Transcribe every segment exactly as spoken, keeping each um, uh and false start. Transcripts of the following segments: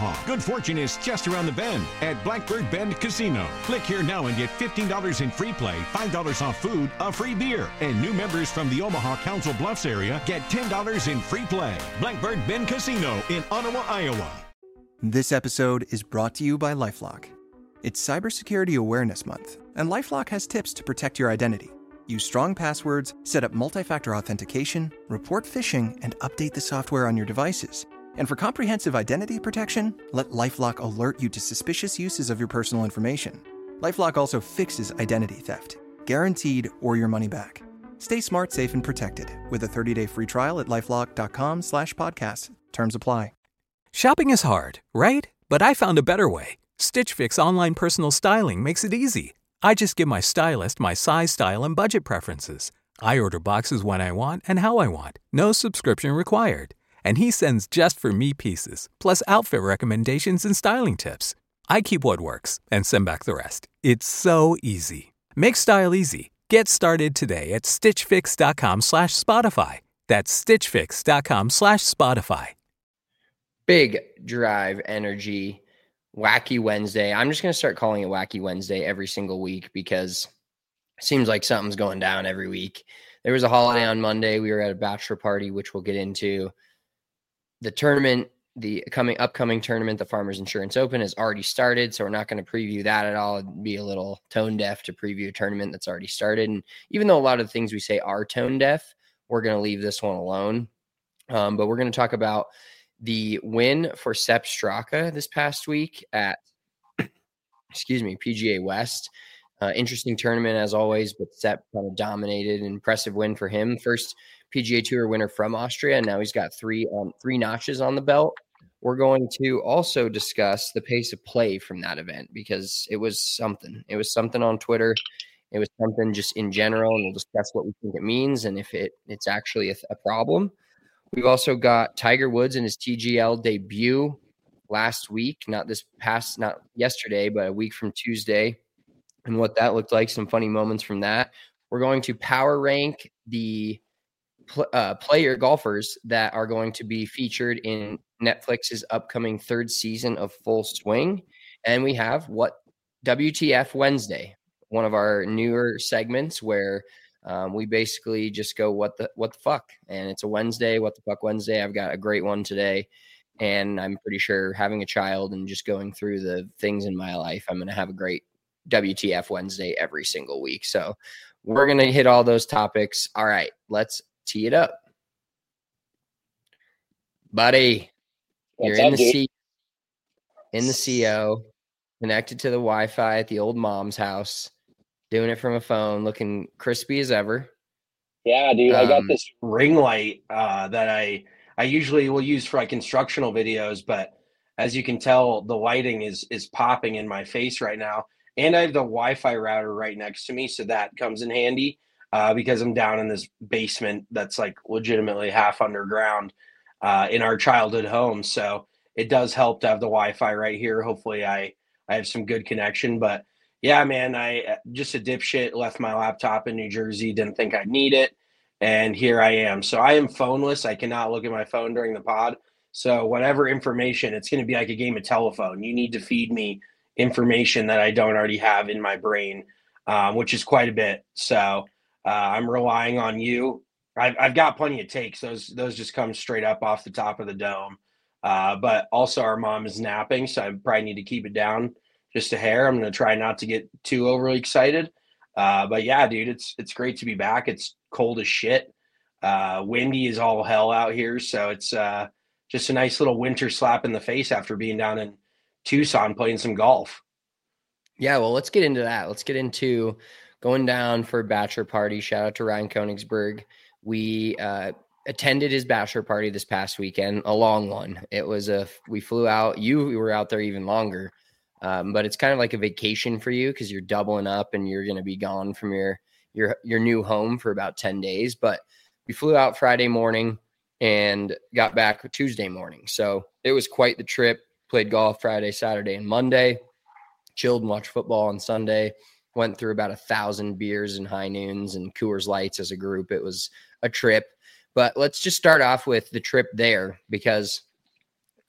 Omaha. Good fortune is just around the bend at Blackbird Bend Casino. Click here now and get fifteen dollars in free play, five dollars off food, a free beer. And new members from the Omaha Council Bluffs area get ten dollars in free play. Blackbird Bend Casino in Ottawa, Iowa. This episode is brought to you by LifeLock. It's Cybersecurity Awareness Month, and LifeLock has tips to protect your identity. Use strong passwords, set up multi-factor authentication, report phishing, and update the software on your devices. And for comprehensive identity protection, let LifeLock alert you to suspicious uses of your personal information. LifeLock also fixes identity theft, guaranteed or your money back. Stay smart, safe, and protected with a thirty-day free trial at LifeLock.com slash podcast. Terms apply. Shopping is hard, right? But I found a better way. Stitch Fix online personal styling makes it easy. I just give my stylist my size, style, and budget preferences. I order boxes when I want and how I want. No subscription required. And he sends just for me pieces, plus outfit recommendations and styling tips. I keep what works and send back the rest. It's so easy. Make style easy. Get started today at stitchfix.com slash Spotify. That's stitchfix.com slash Spotify. Big Drive Energy Wacky Wednesday. I'm just going to start calling it Wacky Wednesday every single week because it seems like something's going down every week. There was a holiday on Monday. We were at a bachelor party, which we'll get into. The tournament, the coming upcoming tournament, the Farmers Insurance Open, has already started, so we're not going to preview that at all. It'd be a little tone deaf to preview a tournament that's already started. And even though a lot of the things we say are tone deaf, we're going to leave this one alone. Um, but we're going to talk about the win for Sepp Straka this past week at, excuse me, P G A West. Uh, interesting tournament as always, but Sepp kind of dominated. An impressive win for him. First P G A Tour winner from Austria, and now he's got three um, three notches on the belt. We're going to also discuss the pace of play from that event because it was something. It was something on Twitter. It was something just in general, and we'll discuss what we think it means and if it it's actually a, a problem. We've also got Tiger Woods in his T G L debut last week, not this past, not yesterday, but a week from Tuesday, and what that looked like, some funny moments from that. We're going to power rank the pl- uh, player golfers that are going to be featured in Netflix's upcoming third season of Full Swing. And we have what W T F Wednesday, one of our newer segments where Um, we basically just go, what the, what the fuck? And it's a Wednesday, what the fuck Wednesday. I've got a great one today. And I'm pretty sure having a child and just going through the things in my life, I'm going to have a great W T F Wednesday every single week. So we're going to hit all those topics. All right, let's tee it up. Buddy, What's you're in up, the dude? C in the C O, connected to the Wi-Fi at the old mom's house. Doing it from a phone, looking crispy as ever. Yeah, dude, I got Um, this ring light uh, that I I usually will use for like instructional videos, but as you can tell, the lighting is is popping in my face right now, and I have the Wi-Fi router right next to me, so that comes in handy uh, because I'm down in this basement that's like legitimately half underground uh, in our childhood home. So it does help to have the Wi-Fi right here. Hopefully, I I have some good connection, but. Yeah, man, I just a dipshit left my laptop in New Jersey, didn't think I'd need it, and here I am. So I am phoneless. I cannot look at my phone during the pod. So whatever information, it's going to be like a game of telephone. You need to feed me information that I don't already have in my brain, um, which is quite a bit. So uh, I'm relying on you. I've, I've got plenty of takes. Those those just come straight up off the top of the dome. Uh, but also our mom is napping, so I probably need to keep it down just a hair. I'm going to try not to get too overly excited. Uh, but yeah, dude, it's it's great to be back. It's cold as shit. Uh, windy as all hell out here. So it's uh, just a nice little winter slap in the face after being down in Tucson playing some golf. Yeah, well, let's get into that. Let's get into going down for a bachelor party. Shout out to Ryan Koenigsberg. We uh, attended his bachelor party this past weekend, a long one. It was a, we flew out. You were out there even longer. Um, but it's kind of like a vacation for you because you're doubling up and you're going to be gone from your your your new home for about ten days. But we flew out Friday morning and got back Tuesday morning. So it was quite the trip. Played golf Friday, Saturday, and Monday. Chilled and watched football on Sunday. Went through about a thousand beers and high noons and Coors Lights as a group. It was a trip. But let's just start off with the trip there because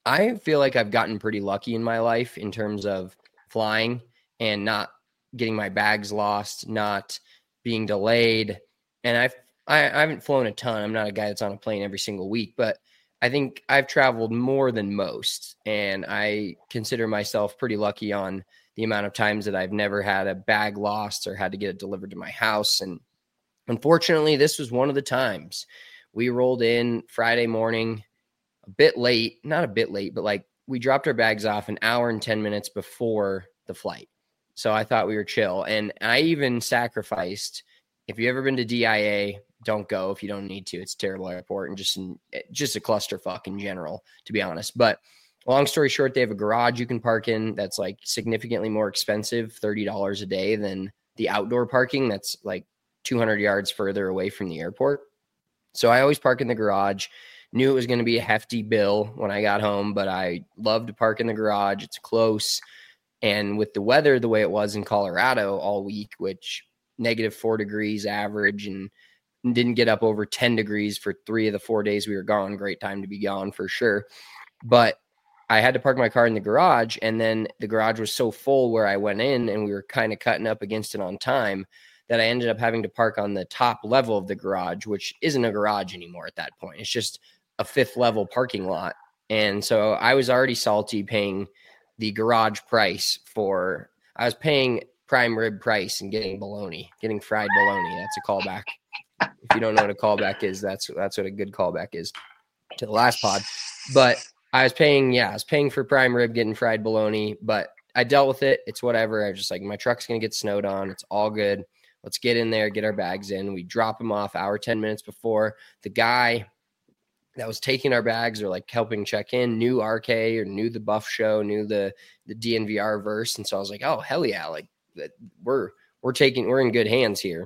I feel like I've gotten pretty lucky in my life in terms of flying and not getting my bags lost, not being delayed. And I've, I, I haven't flown a ton. I'm not a guy that's on a plane every single week, but I think I've traveled more than most. And I consider myself pretty lucky on the amount of times that I've never had a bag lost or had to get it delivered to my house. And unfortunately, this was one of the times. We rolled in Friday morning, a bit late, not a bit late, but like we dropped our bags off an hour and ten minutes before the flight. So I thought we were chill. And I even sacrificed, if you've ever been to D I A, don't go if you don't need to. It's a terrible airport and just, just a clusterfuck in general, to be honest. But long story short, they have a garage you can park in that's like significantly more expensive, thirty dollars a day, than the outdoor parking that's like two hundred yards further away from the airport. So I always park in the garage. Knew it was going to be a hefty bill when I got home, but I love to park in the garage. It's close. And with the weather the way it was in Colorado all week, which negative four degrees average, and didn't get up over ten degrees for three of the four days we were gone. Great time to be gone for sure. But I had to park my car in the garage, and then the garage was so full where I went in and we were kind of cutting up against it on time that I ended up having to park on the top level of the garage, which isn't a garage anymore at that point. It's just a fifth level parking lot. And so I was already salty paying the garage price for, I was paying prime rib price and getting bologna, getting fried bologna. That's a callback. If you don't know what a callback is, that's, that's what a good callback is to the last pod. But I was paying, yeah, I was paying for prime rib, getting fried bologna, but I dealt with it. It's whatever. I was just like, my truck's going to get snowed on. It's all good. Let's get in there, get our bags in. We drop them off hour, ten minutes before. The guy that was taking our bags or like helping check in knew R K or knew the Buff Show, knew the the D N V R verse. And so I was like, oh, hell yeah. Like we're, we're taking, we're in good hands here.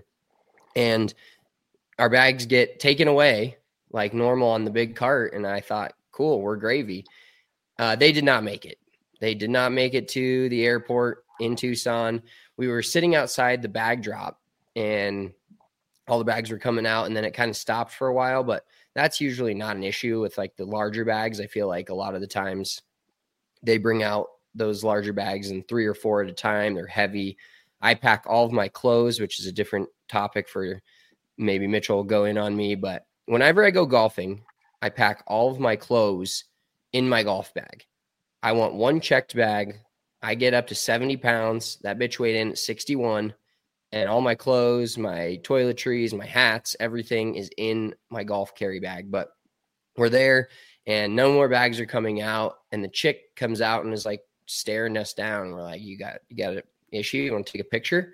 And our bags get taken away like normal on the big cart. And I thought, cool, we're gravy. Uh, they did not make it. They did not make it to the airport in Tucson. We were sitting outside the bag drop and all the bags were coming out, and then it kind of stopped for a while, but that's usually not an issue with like the larger bags. I feel like a lot of the times they bring out those larger bags in three or four at a time. They're heavy. I pack all of my clothes, which is a different topic for maybe Mitchell will go in on me. But whenever I go golfing, I pack all of my clothes in my golf bag. I want one checked bag. I get up to seventy pounds. That bitch weighed in at sixty-one. And all my clothes, my toiletries, my hats, everything is in my golf carry bag. But we're there and no more bags are coming out. And the chick comes out and is like staring us down. We're like, you got, you got an issue? You want to take a picture?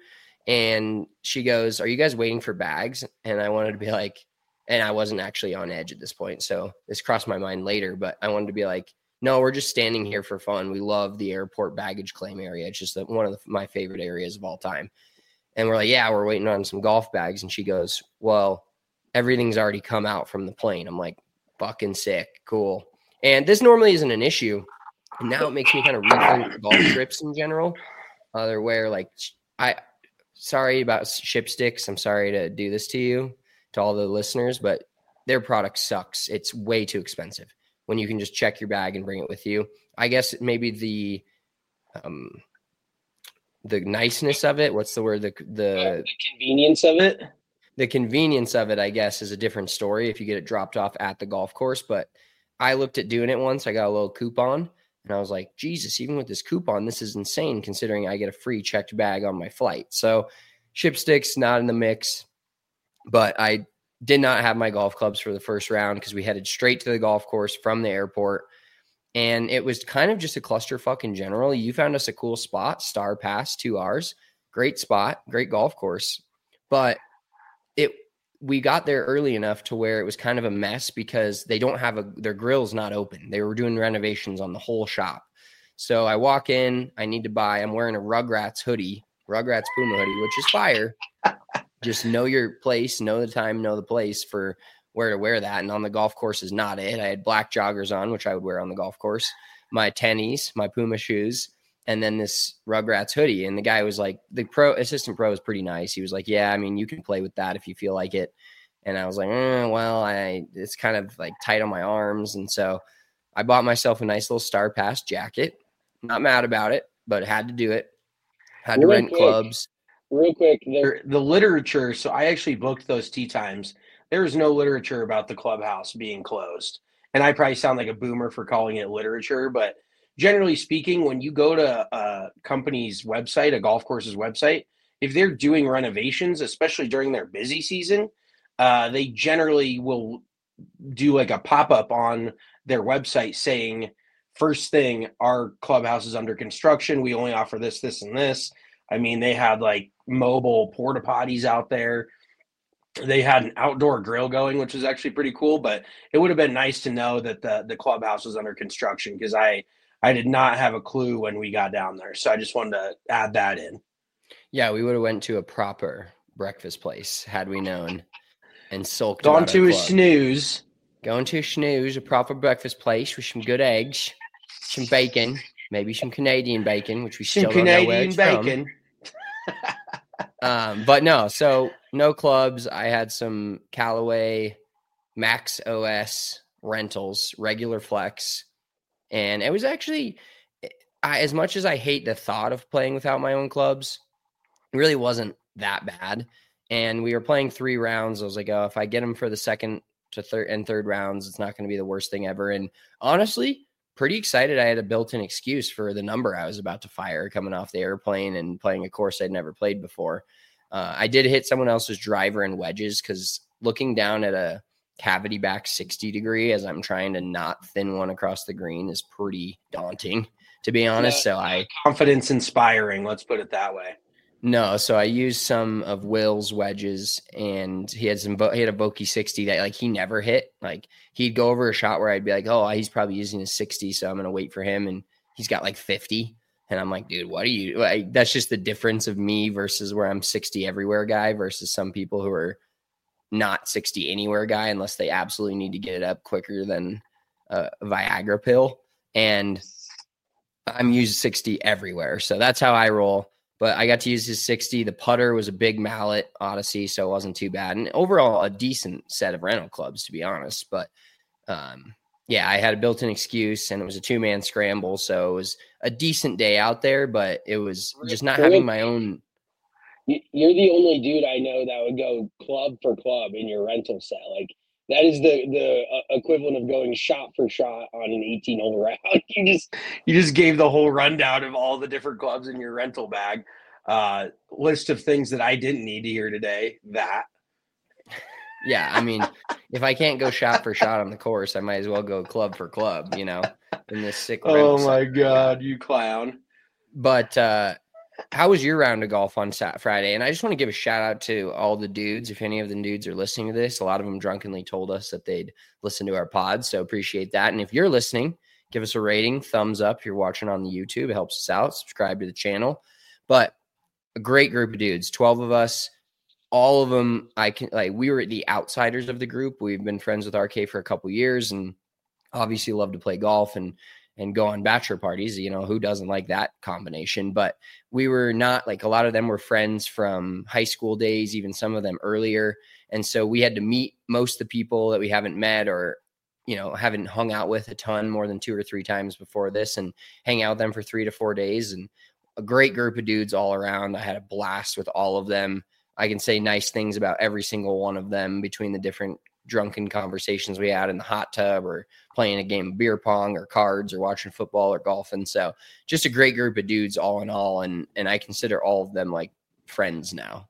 And she goes, are you guys waiting for bags? And I wanted to be like, and I wasn't actually on edge at this point. So this crossed my mind later, but I wanted to be like, no, we're just standing here for fun. We love the airport baggage claim area. It's just one of the, my favorite areas of all time. And we're like, yeah, we're waiting on some golf bags. And she goes, well, everything's already come out from the plane. I'm like, fucking sick. Cool. And this normally isn't an issue. And now it makes me kind of rethink golf trips in general. Uh, where like, I, sorry about Shipsticks. I'm sorry to do this to you, to all the listeners, but their product sucks. It's way too expensive when you can just check your bag and bring it with you. I guess maybe the, um, the niceness of it. What's the word? The, the, uh, the convenience of it. The convenience of it, I guess, is a different story if you get it dropped off at the golf course. But I looked at doing it once. I got a little coupon and I was like, Jesus, even with this coupon, this is insane considering I get a free checked bag on my flight. So Shipsticks not in the mix, but I did not have my golf clubs for the first round because we headed straight to the golf course from the airport. And it was kind of just a clusterfuck in general. You found us a cool spot, Star Pass, two hours. Great spot, great golf course. But it we got there early enough to where it was kind of a mess because they don't have a their grill's not open. They were doing renovations on the whole shop. So I walk in, I need to buy, I'm wearing a Rugrats hoodie, Rugrats Puma hoodie, which is fire. Just know your place, know the time, know the place for where to wear that. And on the golf course is not it. I had black joggers on, which I would wear on the golf course, my tennies, my Puma shoes, and then this Rugrats hoodie. And the guy was like, the pro assistant pro is pretty nice. He was like, yeah, I mean, you can play with that if you feel like it. And I was like, eh, well, I, it's kind of like tight on my arms. And so I bought myself a nice little Star Pass jacket. Not mad about it, but had to do it. Had to Real rent quick, clubs. Real quick, the, the literature. So I actually booked those tee times. There is no literature about the clubhouse being closed. And I probably sound like a boomer for calling it literature, but generally speaking, when you go to a company's website, a golf course's website, if they're doing renovations, especially during their busy season, uh, they generally will do like a pop-up on their website saying, first thing, our clubhouse is under construction. We only offer this, this, and this. I mean, they had like mobile porta potties out there. They had an outdoor grill going, which was actually pretty cool, but it would have been nice to know that the, the clubhouse was under construction because I, I did not have a clue when we got down there. So I just wanted to add that in. Yeah, we would have went to a proper breakfast place had we known and sulked. Gone to a snooze. Going to a snooze, a proper breakfast place with some good eggs, some bacon, maybe some Canadian bacon, which we some still Canadian don't know where it's bacon. From. um, but no, so no clubs. I had some Callaway Max O S rentals, regular flex, and it was actually, I, as much as I hate the thought of playing without my own clubs, it really wasn't that bad. And we were playing three rounds. I was like, oh, if I get them for the second to third and third rounds, it's not going to be the worst thing ever. And honestly, pretty excited. I had a built-in excuse for the number I was about to fire coming off the airplane and playing a course I'd never played before. Uh, I did hit someone else's driver and wedges because looking down at a cavity back sixty degree as I'm trying to not thin one across the green is pretty daunting, to be honest. Yeah, so I confidence inspiring. Let's put it that way. No, so I used some of Will's wedges, and he had some. He had a Vokey sixty that like he never hit. Like he'd go over a shot where I'd be like, "Oh, he's probably using a sixty, so I'm gonna wait for him." And he's got like fifty, and I'm like, "Dude, what are you?" Like, that's just the difference of me versus where I'm sixty everywhere guy versus some people who are not sixty anywhere guy unless they absolutely need to get it up quicker than a Viagra pill. And I'm using sixty everywhere, so that's how I roll. But I got to use his sixty. The putter was a big mallet Odyssey, so it wasn't too bad. And overall, a decent set of rental clubs, to be honest. But, um, yeah, I had a built-in excuse, and it was a two-man scramble. So it was a decent day out there, but it was just not having my own. You're the only dude I know that would go club for club in your rental set. Like, that is the the uh, equivalent of going shot for shot on an eighteen-hole round. You just you just gave the whole rundown of all the different clubs in your rental bag. Uh, list of things that I didn't need to hear today. That. Yeah, I mean, if I can't go shot for shot on the course, I might as well go club for club, you know, in this sick. Oh, my God, you clown. But uh, how was your round of golf on Saturday, Friday? And I just want to give a shout out to all the dudes. If any of the dudes are listening to this, a lot of them drunkenly told us that they'd listen to our pod. So appreciate that. And if you're listening, give us a rating, thumbs up. If you're watching on the YouTube, it helps us out. Subscribe to the channel. But a great group of dudes, twelve of us, all of them. I can like, we were the outsiders of the group. We've been friends with R K for a couple years and obviously love to play golf and, and go on bachelor parties. You know, who doesn't like that combination? But we were not like, a lot of them were friends from high school days, even some of them earlier. And so we had to meet most of the people that we haven't met or, you know, haven't hung out with a ton more than two or three times before this and hang out with them for three to four days. And a great group of dudes all around. I had a blast with all of them. I can say nice things about every single one of them between the different drunken conversations we had in the hot tub or playing a game of beer pong or cards or watching football or golfing. So just a great group of dudes all in all. And, and I consider all of them like friends now.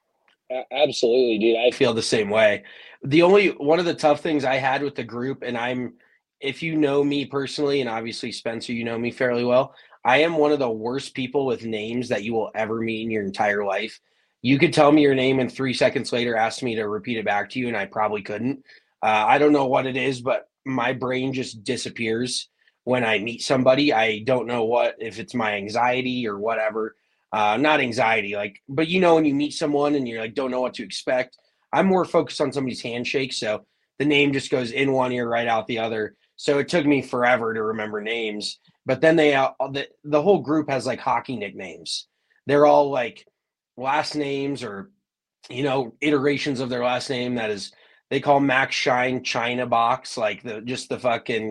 Absolutely, dude. I feel the same way. The only one of the tough things I had with the group, and I'm, if you know me personally, and obviously Spencer, you know me fairly well, I am one of the worst people with names that you will ever meet in your entire life. You could tell me your name and three seconds later ask me to repeat it back to you, and I probably couldn't. Uh, I don't know what it is, but my brain just disappears when I meet somebody. I don't know what, if it's my anxiety or whatever. Uh, not anxiety, like, but you know, when you meet someone and you're like, don't know what to expect. I'm more focused on somebody's handshake, so the name just goes in one ear, right out the other. So it took me forever to remember names. But then they, uh, the, the whole group has like hockey nicknames. They're all like last names or, you know, iterations of their last name. That is, they call Max Shine China Box, like the, just the fucking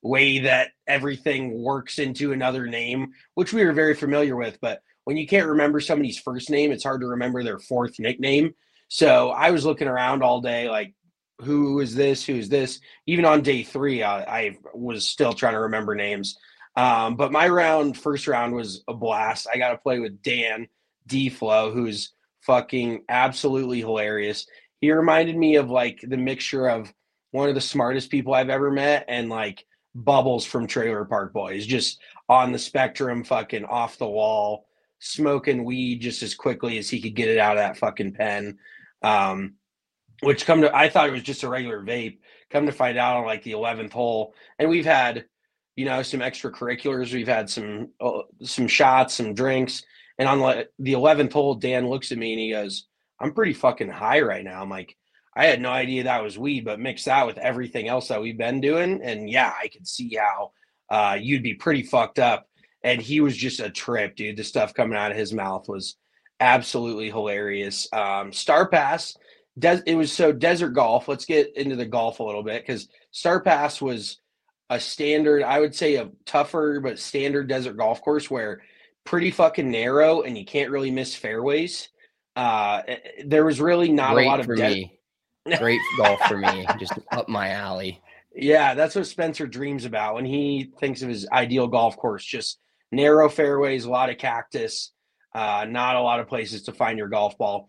way that everything works into another name, which we were very familiar with. But when you can't remember somebody's first name, it's hard to remember their fourth nickname. So I was looking around all day, like, who is this? Who is this? Even on day three, I, I was still trying to remember names. Um, but my round, first round was a blast. I got to play with Dan D-Flow, who's fucking absolutely hilarious. He reminded me of like the mixture of one of the smartest people I've ever met and like Bubbles from Trailer Park Boys, just on the spectrum, fucking off the wall, smoking weed just as quickly as he could get it out of that fucking pen. Um, which come to, I thought it was just a regular vape. Come to find out on like the eleventh hole. And we've had, you know, some extracurriculars. We've had some, uh, some shots, some drinks. And on like the eleventh hole, Dan looks at me and he goes, I'm pretty fucking high right now. I'm like, I had no idea that was weed, but mix that with everything else that we've been doing. And yeah, I could see how uh, you'd be pretty fucked up. And he was just a trip, dude. The stuff coming out of his mouth was absolutely hilarious. Um, Star Pass, des- it was so desert golf. Let's get into the golf a little bit because Star Pass was a standard, I would say a tougher, but standard desert golf course where pretty fucking narrow and you can't really miss fairways. Uh, there was really not Great a lot of for de- me. Great golf for me, just up my alley. Yeah, that's what Spencer dreams about when he thinks of his ideal golf course. Just narrow fairways, a lot of cactus, uh, not a lot of places to find your golf ball.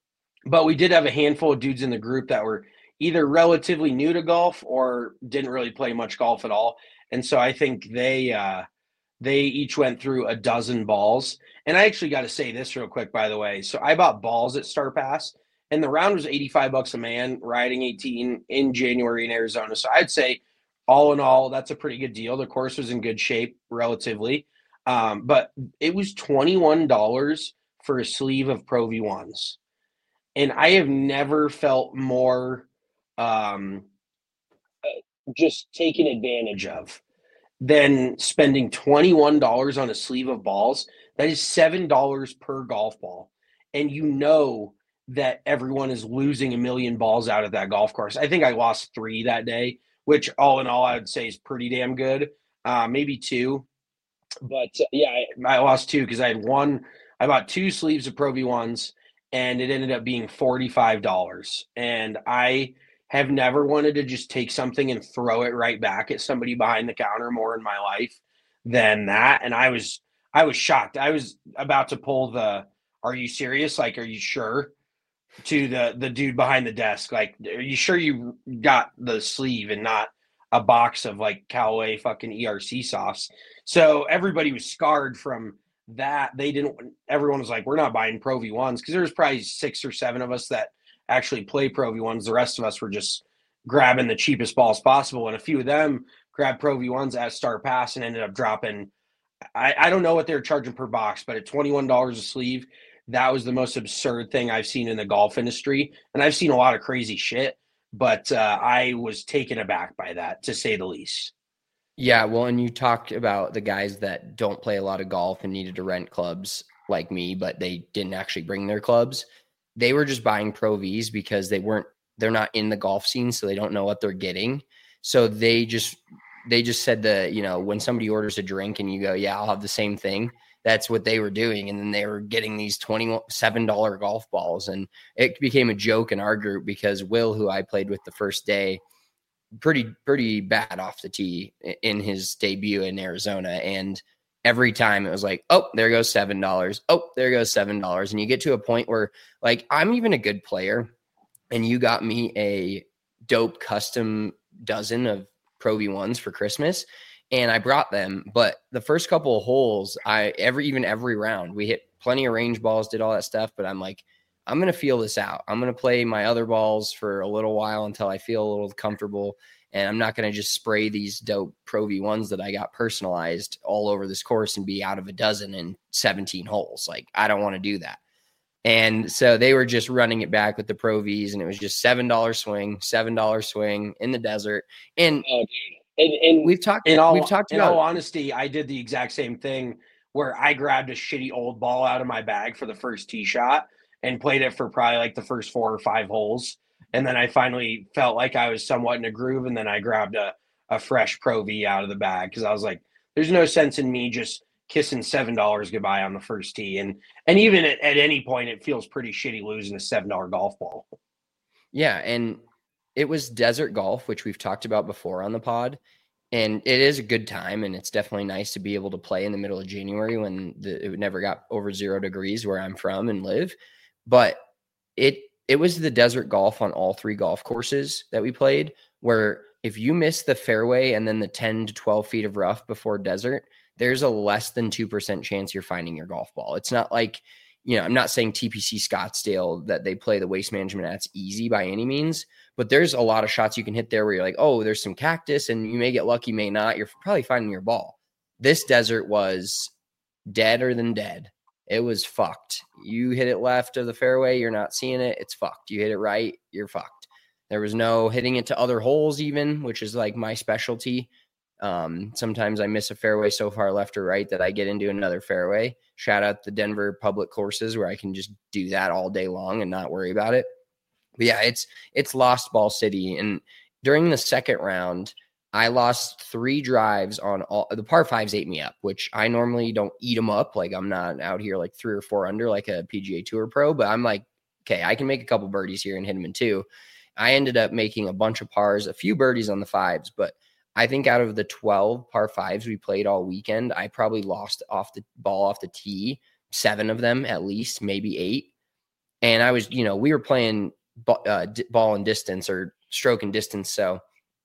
But we did have a handful of dudes in the group that were either relatively new to golf or didn't really play much golf at all. And so I think they uh, they each went through a dozen balls. And I actually got to say this real quick, by the way. So I bought balls at Star Pass. And the round was eighty-five bucks a man, riding eighteen in January in Arizona. So I'd say all in all, that's a pretty good deal. The course was in good shape relatively. Um, but it was twenty-one dollars for a sleeve of Pro V ones. And I have never felt more um, just taken advantage of than spending twenty-one dollars on a sleeve of balls. That is seven dollars per golf ball. And you know that everyone is losing a million balls out of that golf course. I think I lost three that day, which all in all, I would say is pretty damn good. Uh, maybe two. But uh, yeah, I, I lost two because I had one, I bought two sleeves of Pro V ones and it ended up being forty-five dollars. And I have never wanted to just take something and throw it right back at somebody behind the counter more in my life than that. And I was, I was shocked. I was about to pull the, are you serious? Like, are you sure? To the the dude behind the desk, like, are you sure you got the sleeve and not a box of like Callaway fucking E R C softs? So everybody was scarred from that. They didn't, everyone was like, we're not buying Pro V ones because there was probably six or seven of us that actually play Pro V ones. The rest of us were just grabbing the cheapest balls possible. And a few of them grabbed Pro V ones at Star Pass and ended up dropping, I, I don't know what they're charging per box, but at twenty-one dollars a sleeve, that was the most absurd thing I've seen in the golf industry. And I've seen a lot of crazy shit, but uh, I was taken aback by that, to say the least. Yeah, well, and you talked about the guys that don't play a lot of golf and needed to rent clubs like me, but they didn't actually bring their clubs. They were just buying Pro Vs because they weren't, they're not in the golf scene, so they don't know what they're getting. So they just, they just said that, you know, when somebody orders a drink and you go, yeah, I'll have the same thing. That's what they were doing. And then they were getting these twenty-seven dollars golf balls. And it became a joke in our group because Will, who I played with the first day, pretty, pretty bad off the tee in his debut in Arizona. And every time it was like, oh, there goes seven dollars. Oh, there goes seven dollars. And you get to a point where, like, I'm even a good player and you got me a dope custom dozen of Pro V ones for Christmas. And I brought them, but the first couple of holes, I every even every round, we hit plenty of range balls, did all that stuff. But I'm like, I'm going to feel this out. I'm going to play my other balls for a little while until I feel a little comfortable. And I'm not going to just spray these dope Pro V ones that I got personalized all over this course and be out of a dozen in seventeen holes. Like, I don't want to do that. And so they were just running it back with the Pro Vs, and it was just seven dollars swing, seven dollars swing in the desert. And oh, dude. And, and we've talked, in all, we've talked in about, all honesty, I did the exact same thing where I grabbed a shitty old ball out of my bag for the first tee shot and played it for probably like the first four or five holes. And then I finally felt like I was somewhat in a groove. And then I grabbed a, a fresh Pro V out of the bag because I was like, there's no sense in me just kissing seven dollars goodbye on the first tee. And and even at, at any point, it feels pretty shitty losing a seven dollar golf ball. Yeah, and it was desert golf, which we've talked about before on the pod. And it is a good time, and it's definitely nice to be able to play in the middle of January when the, it never got over zero degrees where I'm from and live. But it it was the desert golf on all three golf courses that we played, where if you miss the fairway and then the ten to twelve feet of rough before desert, there's a less than two percent chance you're finding your golf ball. It's not like, you know, I'm not saying T P C Scottsdale that they play the waste management that's easy by any means, but there's a lot of shots you can hit there where you're like, oh, there's some cactus and you may get lucky, may not. You're probably finding your ball. This desert was deader than dead. It was fucked. You hit it left of the fairway, you're not seeing it. It's fucked. You hit it right, you're fucked. There was no hitting it to other holes even, which is like my specialty. Um, sometimes I miss a fairway so far left or right that I get into another fairway. Shout out the Denver public courses where I can just do that all day long and not worry about it. But yeah, it's it's lost ball city. And during the second round, I lost three drives on all the par fives ate me up, which I normally don't eat them up. Like I'm not out here like three or four under like a P G A Tour pro, but I'm like, okay, I can make a couple birdies here and hit them in two. I ended up making a bunch of pars, a few birdies on the fives, but I think out of the twelve par fives we played all weekend, I probably lost off the ball off the tee, seven of them at least, maybe eight. And I was, you know, we were playing uh, ball and distance or stroke and distance. So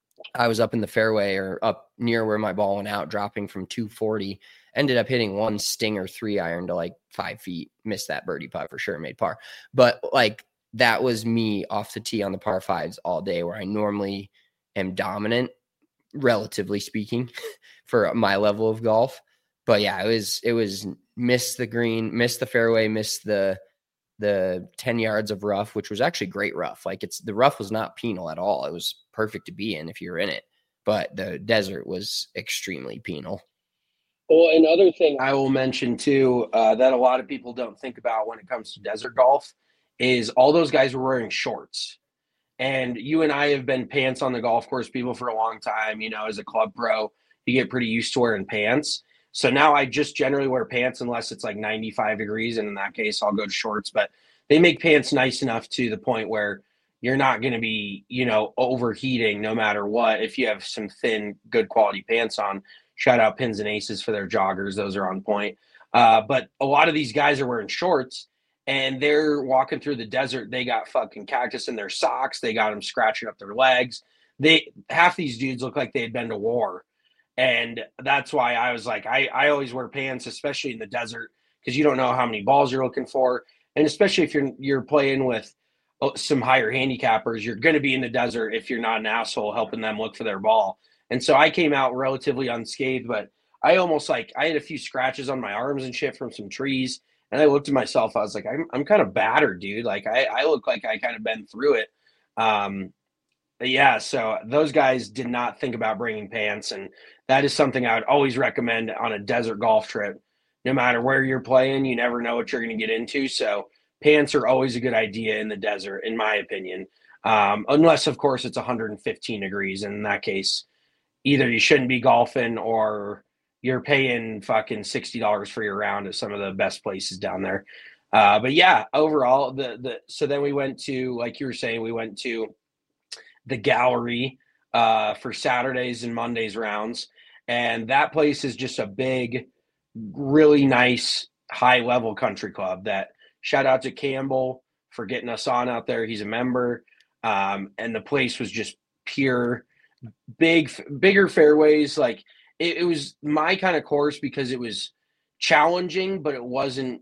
I was up in the fairway or up near where my ball went out, dropping from two forty, ended up hitting one stinger three iron to like five feet, missed that birdie putt for sure, made par. But like that was me off the tee on the par fives all day where I normally am dominant, relatively speaking, for my level of golf. But yeah, it was, it was miss the green, miss the fairway, miss the, the ten yards of rough, which was actually great rough. Like it's, the rough was not penal at all. It was perfect to be in if you're in it, but the desert was extremely penal. Well, another thing I will mention too, uh, that a lot of people don't think about when it comes to desert golf is all those guys were wearing shorts. And you and I have been pants on the golf course people for a long time. You know, as a club pro, you get pretty used to wearing pants. So now I just generally wear pants unless it's like ninety-five degrees. And in that case, I'll go to shorts. But they make pants nice enough to the point where you're not going to be, you know, overheating no matter what. If you have some thin, good quality pants on, shout out Pins and Aces for their joggers. Those are on point. Uh, but a lot of these guys are wearing shorts. And they're walking through the desert. They got fucking cactus in their socks. They got them scratching up their legs. They half these dudes look like they had been to war. And that's why I was like, I, I always wear pants, especially in the desert, because you don't know how many balls you're looking for. And especially if you're you're playing with some higher handicappers, you're going to be in the desert if you're not an asshole helping them look for their ball. And so I came out relatively unscathed, but I almost like I had a few scratches on my arms and shit from some trees. And I looked at myself, I was like, I'm I'm kind of battered, dude. Like I, I look like I kind of been through it. Um, yeah, so those guys did not think about bringing pants. And that is something I would always recommend on a desert golf trip. No matter where you're playing, you never know what you're going to get into. So pants are always a good idea in the desert, in my opinion. Um, unless, of course, it's one hundred fifteen degrees. And in that case, either you shouldn't be golfing or you're paying fucking sixty dollars for your round at some of the best places down there. Uh, but yeah, overall, the, the, so then we went to, like you were saying, we went to the gallery uh, for Saturdays and Mondays rounds. And that place is just a big, really nice high level country club that shout out to Campbell for getting us on out there. He's a member. Um, and the place was just pure big, bigger fairways. Like, It, it was my kind of course because it was challenging, but it wasn't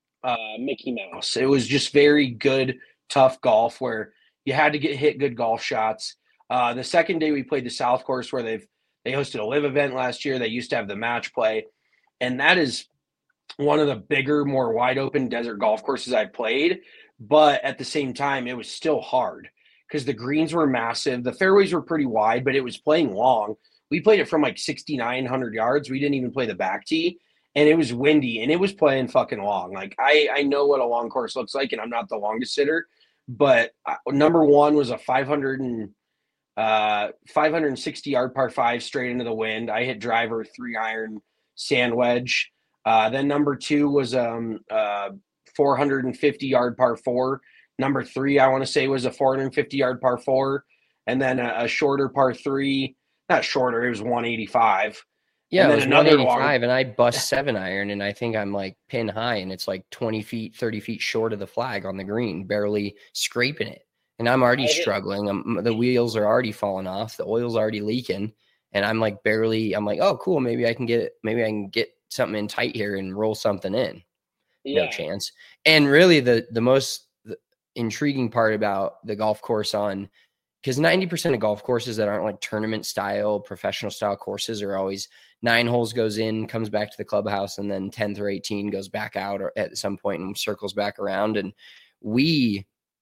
uh, Mickey Mouse. It was just very good, tough golf where you had to get hit good golf shots. Uh, the second day we played the South Course where they've they hosted a live event last year. They used to have the match play, and that is one of the bigger, more wide open desert golf courses I've played. But at the same time, it was still hard because the greens were massive. The fairways were pretty wide, but it was playing long. We played it from like sixty-nine hundred yards. We didn't even play the back tee, and it was windy, and it was playing fucking long. Like, I, I know what a long course looks like, and I'm not the longest hitter, but number one was a five hundred uh, five hundred sixty yard par five straight into the wind. I hit driver, three iron, sand wedge. Uh, then number two was um uh four hundred fifty yard par four. Number three, I want to say, was a four hundred fifty yard par four, and then a, a shorter par three. Not shorter, it was one eighty-five. Yeah, and it then was another one eighty-five, long... and I bust seven iron, and I think I'm like pin high, and it's like twenty feet, thirty feet short of the flag on the green, barely scraping it. And I'm already struggling. I'm, the wheels are already falling off. The oil's already leaking, and I'm like barely. I'm like, oh, cool. Maybe I can get. Maybe I can get something in tight here and roll something in. Yeah. No chance. And really, the the most intriguing part about the golf course on, because ninety percent of golf courses that aren't like tournament style, professional style courses are always nine holes goes in, comes back to the clubhouse, and then ten through eighteen goes back out or at some point and circles back around. And we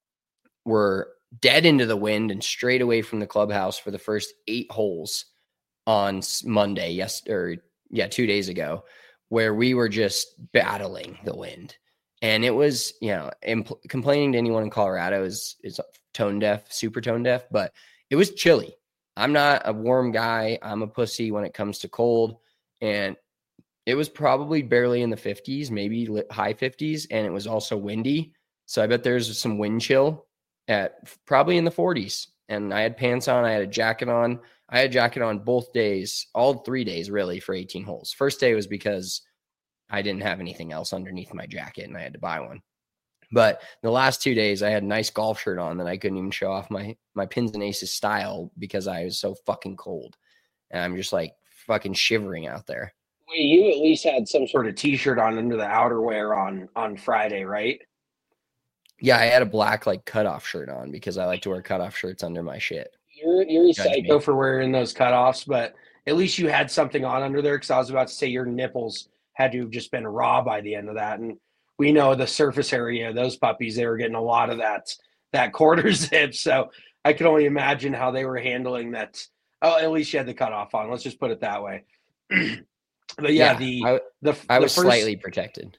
were dead into the wind and straight away from the clubhouse for the first eight holes on Monday, yes, or yeah, two days ago, where we were just battling the wind. And it was, you know, impl- complaining to anyone in Colorado is is tone deaf, super tone deaf, but it was chilly. I'm not a warm guy. I'm a pussy when it comes to cold. And it was probably barely in the fifties, maybe high fifties. And it was also windy. So I bet there's some wind chill at probably in the forties. And I had pants on. I had a jacket on. I had a jacket on both days, all three days really, for eighteen holes. First day was because I didn't have anything else underneath my jacket and I had to buy one. But the last two days I had a nice golf shirt on that I couldn't even show off my, my pins and aces style because I was so fucking cold. And I'm just like fucking shivering out there. Wait, you at least had some sort of t-shirt on under the outerwear on, on Friday, right? Yeah, I had a black like cutoff shirt on because I like to wear cutoff shirts under my shit. You're you're psycho for wearing those cutoffs, but at least you had something on under there, because I was about to say your nipples had to have just been raw by the end of that. And we know the surface area of those puppies, they were getting a lot of that that quarter zip. So I could only imagine how they were handling that. Oh, at least you had the cutoff on. Let's just put it that way. But yeah, yeah the I, the I the was first, slightly protected.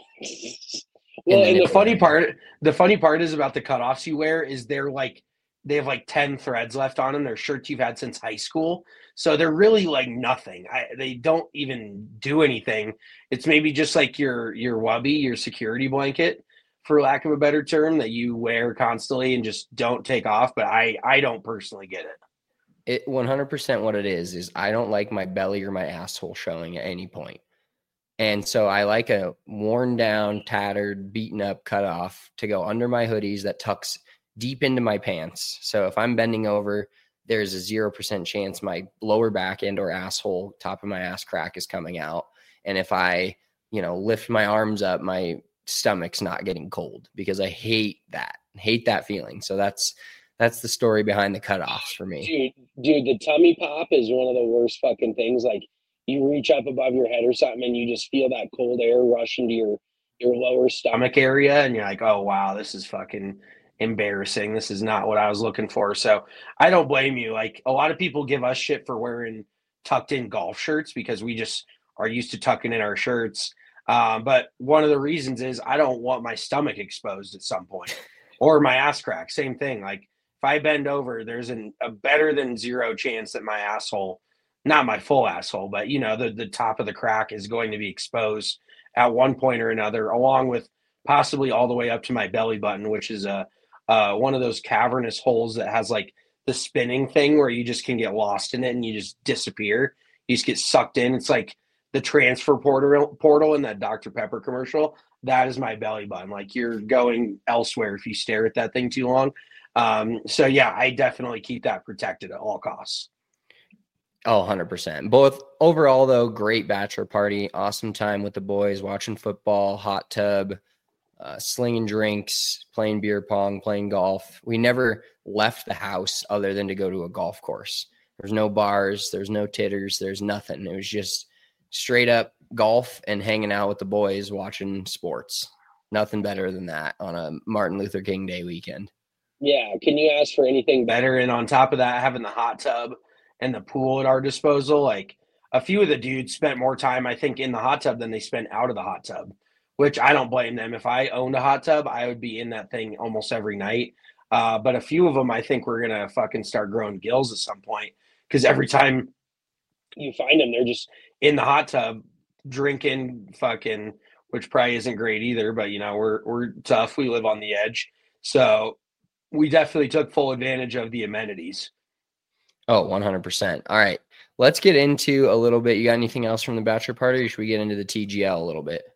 Well, and the funny part, the funny part is about the cutoffs you wear is they're like, they have like ten threads left on them. They're shirts you've had since high school. So they're really like nothing. I, they don't even do anything. It's maybe just like your, your wubby, your security blanket, for lack of a better term, that you wear constantly and just don't take off. But I, I don't personally get it. It one hundred percent what it is, is I don't like my belly or my asshole showing at any point. And so I like a worn down, tattered, beaten up cutoff to go under my hoodies that tucks deep into my pants. So if I'm bending over, there's a zero percent chance my lower back end or asshole, top of my ass crack is coming out. And if I, you know, lift my arms up, my stomach's not getting cold, because I hate that, hate that feeling. So that's, that's the story behind the cutoffs for me. Dude, dude, the tummy pop is one of the worst fucking things. Like, you reach up above your head or something and you just feel that cold air rush into your, your lower stomach area. And you're like, oh, wow, this is fucking embarrassing. This is not what I was looking for. So I don't blame you. Like, a lot of people give us shit for wearing tucked in golf shirts because we just are used to tucking in our shirts. Um, but one of the reasons is I don't want my stomach exposed at some point, or my ass crack. Same thing. Like, if I bend over, there's an, a better than zero chance that my asshole, not my full asshole, but, you know, the, the top of the crack is going to be exposed at one point or another, along with possibly all the way up to my belly button, which is a uh, one of those cavernous holes that has like the spinning thing where you just can get lost in it and you just disappear. You just get sucked in. It's like the transfer portal portal in that Doctor Pepper commercial. That is my belly button. Like, you're going elsewhere if you stare at that thing too long. Um, so yeah, I definitely keep that protected at all costs. Oh, one hundred percent. Both overall, though, great bachelor party. Awesome time with the boys, watching football, hot tub, uh, slinging drinks, playing beer pong, playing golf. We never left the house other than to go to a golf course. There's no bars. There's no titters. There's nothing. It was just straight up golf and hanging out with the boys, watching sports. Nothing better than that on a Martin Luther King Day weekend. Yeah. Can you ask for anything better? And on top of that, having the hot tub and the pool at our disposal, like, a few of the dudes spent more time, I think, in the hot tub than they spent out of the hot tub, which I don't blame them. If I owned a hot tub, I would be in that thing almost every night. Uh, but a few of them, I think we're going to fucking start growing gills at some point. Because every time you find them, they're just in the hot tub drinking fucking, which probably isn't great either, but you know, we're, we're tough. We live on the edge. So we definitely took full advantage of the amenities. Oh, one hundred percent. All right. Let's get into a little bit. You got anything else from the bachelor party, or should we get into the T G L a little bit?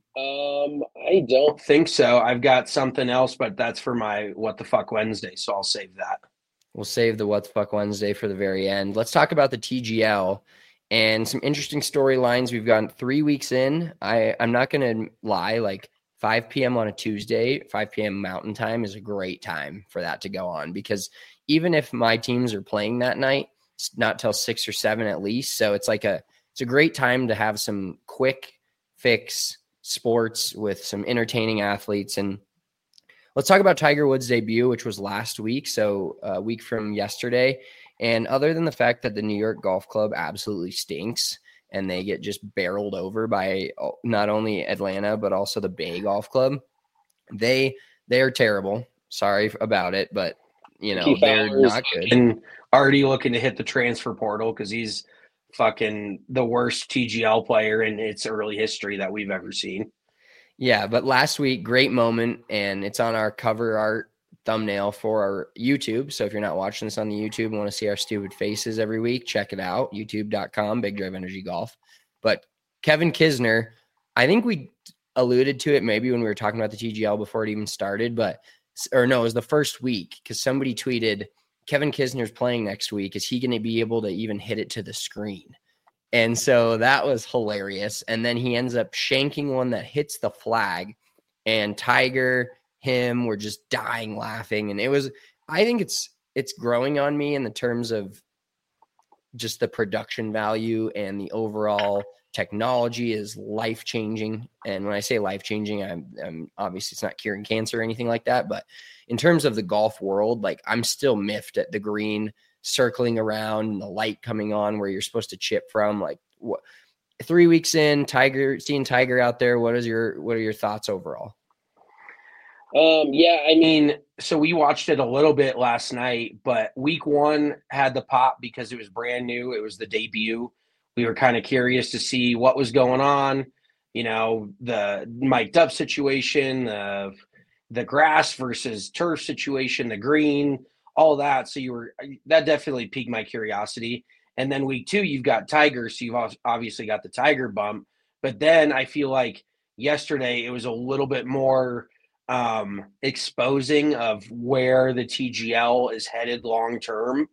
Um, I don't think so. I've got something else, but that's for my What the Fuck Wednesday, so I'll save that. We'll save the What the Fuck Wednesday for the very end. Let's talk about the T G L and some interesting storylines. We've gotten three weeks in. I, I'm not going to lie, like five p.m. on a Tuesday, five p.m. Mountain Time is a great time for that to go on, because even if my teams are playing that night, it's not till six or seven at least. So it's like a, it's a great time to have some quick fix sports with some entertaining athletes. And let's talk about Tiger Woods' debut, which was last week. So a week from yesterday. And other than the fact that the New York Golf Club absolutely stinks and they get just barreled over by not only Atlanta, but also the Bay Golf Club, they, they're terrible. Sorry about it, but you know, Keith they're Fowler's not good. And already looking to hit the transfer portal because he's fucking the worst T G L player in its early history that we've ever seen. Yeah, but last week, great moment, and it's on our cover art thumbnail for our YouTube. So if you're not watching this on the YouTube and want to see our stupid faces every week, check it out, youtube dot com, Big Drive Energy Golf. But Kevin Kisner, I think we alluded to it maybe when we were talking about the T G L before it even started, but or no, it was the first week because somebody tweeted, Kevin Kisner's playing next week. Is he going to be able to even hit it to the screen? And so that was hilarious. And then he ends up shanking one that hits the flag, and Tiger, him were just dying laughing. And it was, I think it's, it's growing on me in the terms of just the production value, and the overall technology is life-changing. And when I say life-changing, I'm, I'm obviously it's not curing cancer or anything like that, but in terms of the golf world, like I'm still miffed at the green circling around and the light coming on where you're supposed to chip from. Like what, three weeks in, Tiger, seeing Tiger out there, what is your, what are your thoughts overall? Um, yeah, I mean, so we watched it a little bit last night, but week one had the pop because it was brand new. It was the debut. We were kind of curious to see what was going on, you know, the mic'd up situation, the, the grass versus turf situation, the green, all that. So you were, that definitely piqued my curiosity. And then week two, you've got Tiger. So you've obviously got the Tiger bump, but then I feel like yesterday it was a little bit more um, exposing of where the T G L is headed long-term.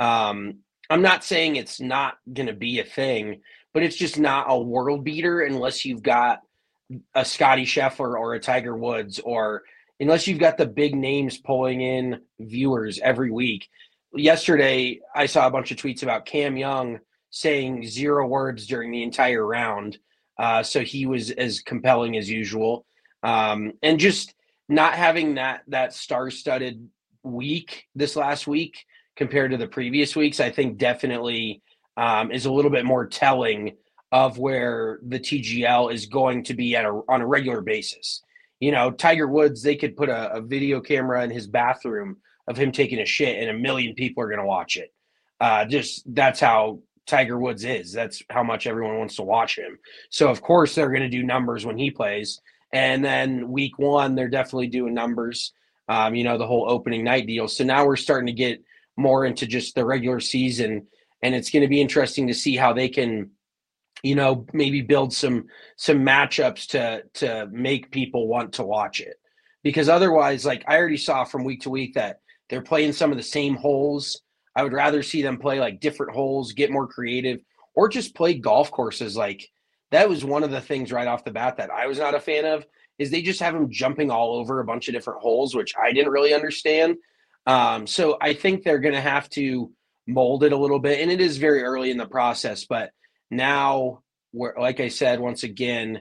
Um, I'm not saying it's not going to be a thing, but it's just not a world beater unless you've got a Scotty Scheffler or a Tiger Woods, or unless you've got the big names pulling in viewers every week. Yesterday, I saw a bunch of tweets about Cam Young saying zero words during the entire round. Uh, so he was as compelling as usual. Um, and just not having that, that star-studded week this last week compared to the previous weeks, I think definitely um, is a little bit more telling of where the T G L is going to be at a, on a regular basis. You know, Tiger Woods, they could put a, a video camera in his bathroom of him taking a shit and a million people are going to watch it. Uh, just that's how Tiger Woods is. That's how much everyone wants to watch him. So, of course, they're going to do numbers when he plays. And then week one, they're definitely doing numbers, um, you know, the whole opening night deal. So now we're starting to get more into just the regular season. And it's going to be interesting to see how they can, you know, maybe build some some matchups to to make people want to watch it. Because otherwise, like I already saw from week to week that they're playing some of the same holes. I would rather see them play like different holes, get more creative, or just play golf courses. Like that was one of the things right off the bat that I was not a fan of, is they just have them jumping all over a bunch of different holes, which I didn't really understand. Um, so I think they're going to have to mold it a little bit, and it is very early in the process. But now, we're, like I said, once again,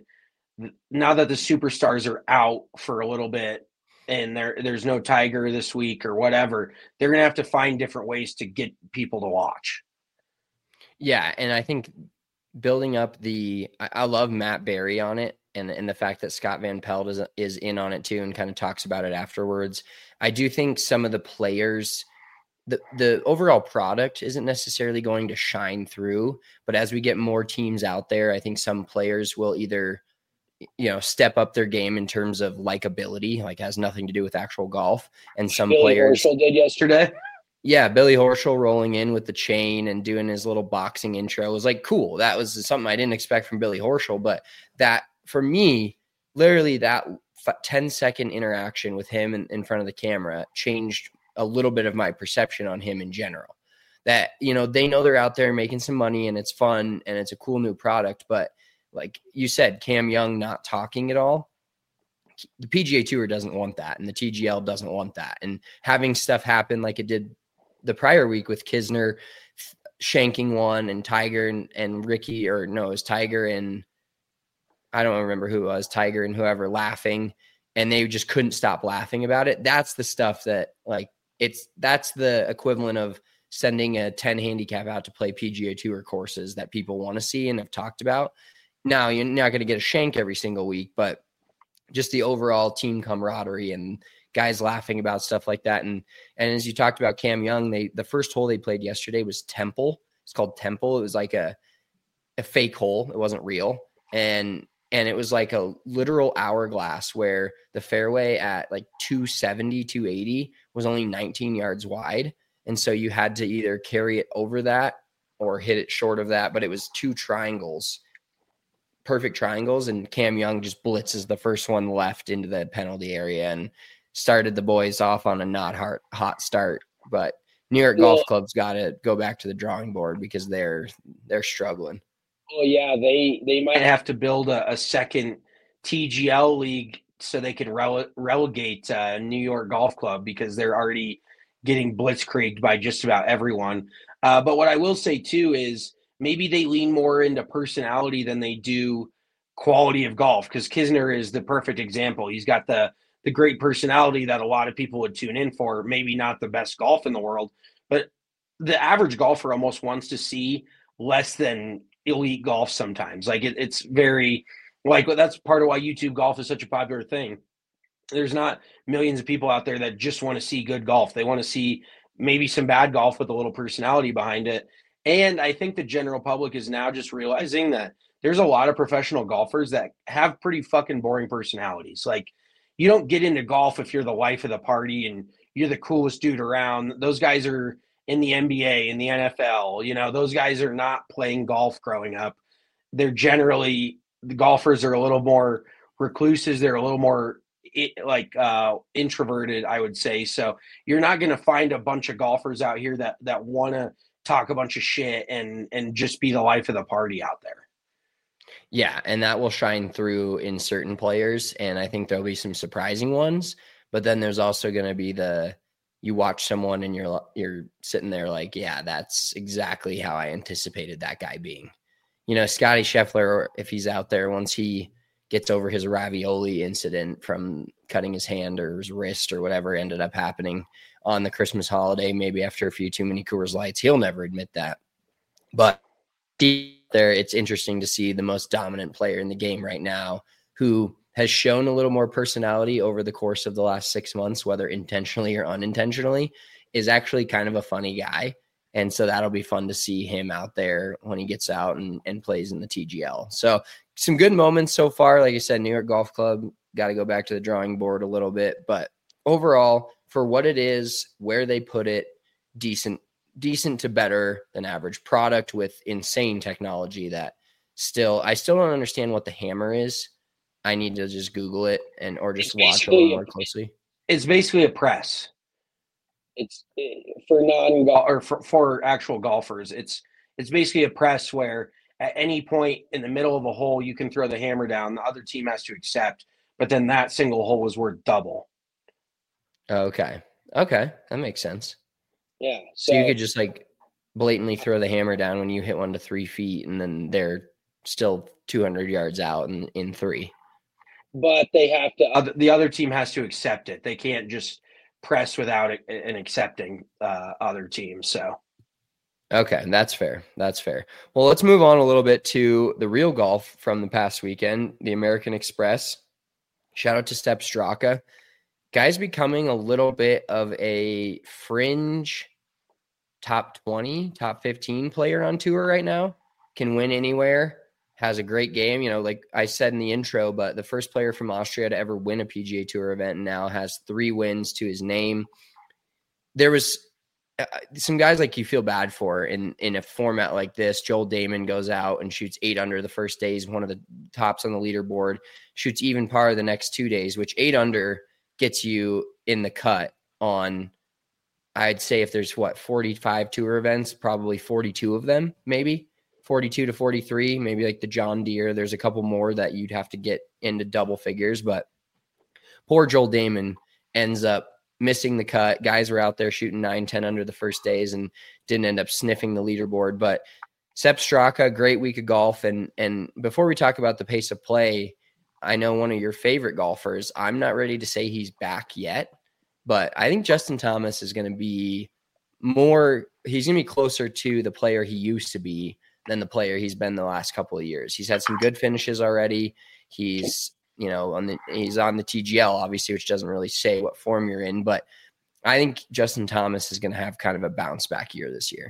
now that the superstars are out for a little bit, and there there's no Tiger this week or whatever, they're going to have to find different ways to get people to watch. Yeah, and I think building up the – I love Matt Berry on it, and, and the fact that Scott Van Pelt is, is in on it too and kind of talks about it afterwards. I do think some of the players, the, the overall product isn't necessarily going to shine through, but as we get more teams out there, I think some players will either, you know, step up their game in terms of likability, like has nothing to do with actual golf. And some Billy players Horschel did yesterday. Yeah, Billy Horschel rolling in with the chain and doing his little boxing intro was like cool. That was something I didn't expect from Billy Horschel, but that for me, literally that ten second interaction with him in, in front of the camera changed a little bit of my perception on him in general. That, you know, they know they're out there making some money and it's fun and it's a cool new product, but like you said, Cam Young not talking at all. The P G A Tour doesn't want that, and the T G L doesn't want that. And having stuff happen like it did the prior week with Kisner shanking one and Tiger and, and Ricky, or no, it was Tiger and I don't remember who it was, Tiger and whoever laughing, and they just couldn't stop laughing about it. That's the stuff that like it's that's the equivalent of sending a ten handicap out to play P G A Tour courses that people want to see and have talked about. Now you're not going to get a shank every single week, but just the overall team camaraderie and guys laughing about stuff like that. And, and as you talked about Cam Young, they, the first hole they played yesterday was Temple. It's called Temple. It was like a, a fake hole. It wasn't real. And, and it was like a literal hourglass where the fairway at like two seventy, two eighty was only nineteen yards wide. And so you had to either carry it over that or hit it short of that, but it was two triangles, perfect triangles. And Cam Young just blitzes the first one left into the penalty area and started the boys off on a not hot, hot start. But New York Golf Club's got to go back to the drawing board because they're they're struggling. Oh yeah, they they might have to build a, a second T G L league so they can rele- relegate uh, New York Golf Club because they're already getting blitzkrieged by just about everyone. Uh, but what I will say too is maybe they lean more into personality than they do quality of golf, because Kisner is the perfect example. He's got the the great personality that a lot of people would tune in for. Maybe not the best golf in the world, but the average golfer almost wants to see less than elite golf sometimes. Like it, it's very like that's part of why YouTube golf is such a popular thing. There's not millions of people out there that just want to see good golf. They want to see maybe some bad golf with a little personality behind it. And I think the general public is now just realizing that there's a lot of professional golfers that have pretty fucking boring personalities. Like, you don't get into golf if you're the life of the party and you're the coolest dude around. Those guys are in the N B A, in the N F L. You know, those guys are not playing golf growing up. They're generally, the golfers are a little more recluses. They're a little more like uh, introverted, I would say. So you're not going to find a bunch of golfers out here that that want to talk a bunch of shit and and just be the life of the party out there. Yeah, and that will shine through in certain players, and I think there'll be some surprising ones. But then there's also going to be the you watch someone and you're you're sitting there like, yeah, that's exactly how I anticipated that guy being. You know, Scotty Scheffler, if he's out there, once he gets over his ravioli incident from cutting his hand or his wrist or whatever ended up happening on the Christmas holiday, maybe after a few too many Coors Lights, he'll never admit that. But there, it's interesting to see the most dominant player in the game right now who has shown a little more personality over the course of the last six months, whether intentionally or unintentionally, is actually kind of a funny guy. And so that'll be fun to see him out there when he gets out and, and plays in the T G L. So some good moments so far. Like I said, New York Golf Club got to go back to the drawing board a little bit. But overall, for what it is, where they put it, decent, decent to better than average product with insane technology that still, I still don't understand what the hammer is. I need to just Google it and or just watch a little more closely. It's basically a press. It's for non or for, for actual golfers. It's it's basically a press where at any point in the middle of a hole you can throw the hammer down. The other team has to accept, but then that single hole is worth double. Okay. Okay, that makes sense. Yeah. So, so you could just like blatantly throw the hammer down when you hit one to three feet, and then they're still two hundred yards out in, in three. But they have to. Uh, the other team has to accept it. They can't just press without it and accepting uh, other teams. So, Okay, that's fair. That's fair. Well, let's move on a little bit to the real golf from the past weekend, the American Express. Shout out to Sepp Straka. Guy's becoming a little bit of a fringe top twenty, top fifteen player on tour right now. Can win anywhere, has a great game. You know, like I said in the intro, but the first player from Austria to ever win a P G A Tour event and now has three wins to his name. There was uh, some guys like you feel bad for in, in a format like this. Joel Dahmen goes out and shoots eight under the first day. He's one of the tops on the leaderboard, shoots even par the next two days, which eight under gets you in the cut on, I'd say if there's what, forty-five tour events, probably forty-two of them, maybe forty-two to forty-three, maybe like the John Deere. There's a couple more that you'd have to get into double figures, but poor Joel Dahmen ends up missing the cut. Guys were out there shooting nine, ten under the first days and didn't end up sniffing the leaderboard. But Sepp Straka, great week of golf. And, and before we talk about the pace of play, I know one of your favorite golfers, I'm not ready to say he's back yet, but I think Justin Thomas is going to be more, he's going to be closer to the player he used to be than the player he's been the last couple of years. He's had some good finishes already. He's, you know, on the, he's on the T G L, obviously, which doesn't really say what form you're in, but I think Justin Thomas is going to have kind of a bounce back year this year.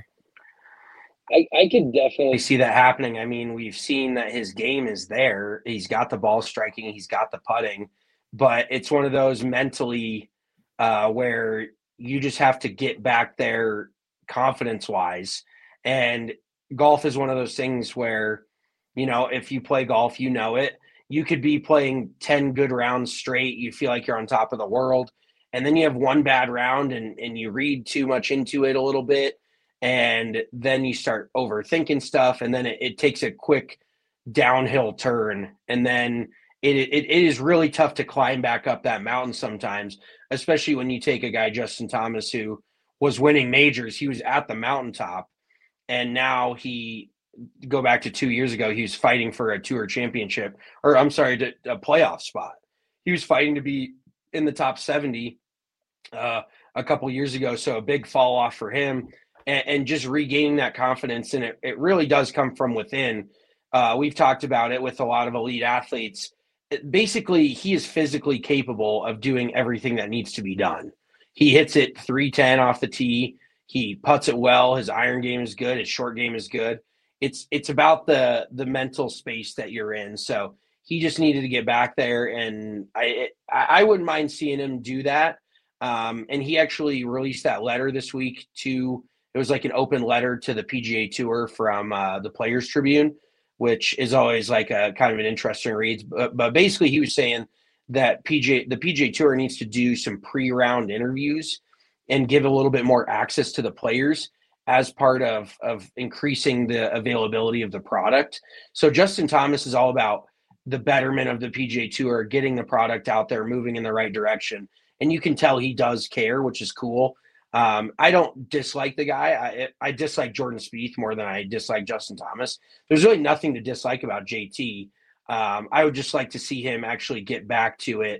I, I could definitely see that happening. I mean, we've seen that his game is there. He's got the ball striking. He's got the putting, but it's one of those mentally uh, where you just have to get back there confidence wise. And golf is one of those things where, you know, if you play golf, you know it. You could be playing ten good rounds straight. You feel like you're on top of the world. And then you have one bad round and, and you read too much into it a little bit. And then you start overthinking stuff. And then it, it takes a quick downhill turn. And then it, it it is really tough to climb back up that mountain sometimes, especially when you take a guy, Justin Thomas, who was winning majors. He was at the mountaintop. And now he go back to two years ago, he was fighting for a tour championship, or I'm sorry, to, a playoff spot. He was fighting to be in the top seventy uh, a couple years ago. So a big fall off for him and, and just regaining that confidence. And it, it really does come from within. Uh, we've talked about it with a lot of elite athletes. It, basically, he is physically capable of doing everything that needs to be done. He hits it three ten off the tee. He putts it well. His iron game is good. His short game is good. It's it's about the the mental space that you're in. So he just needed to get back there, and I I wouldn't mind seeing him do that. Um, and he actually released that letter this week to, it was like an open letter to the P G A Tour from uh, the Players Tribune, which is always like a kind of an interesting read. But, but basically he was saying that P G A the P G A Tour needs to do some pre-round interviews and give a little bit more access to the players as part of, of increasing the availability of the product. So Justin Thomas is all about the betterment of the P G A Tour, getting the product out there, moving in the right direction. And you can tell he does care, which is cool. Um, I don't dislike the guy. I, I dislike Jordan Spieth more than I dislike Justin Thomas. There's really nothing to dislike about J T. Um, I would just like to see him actually get back to it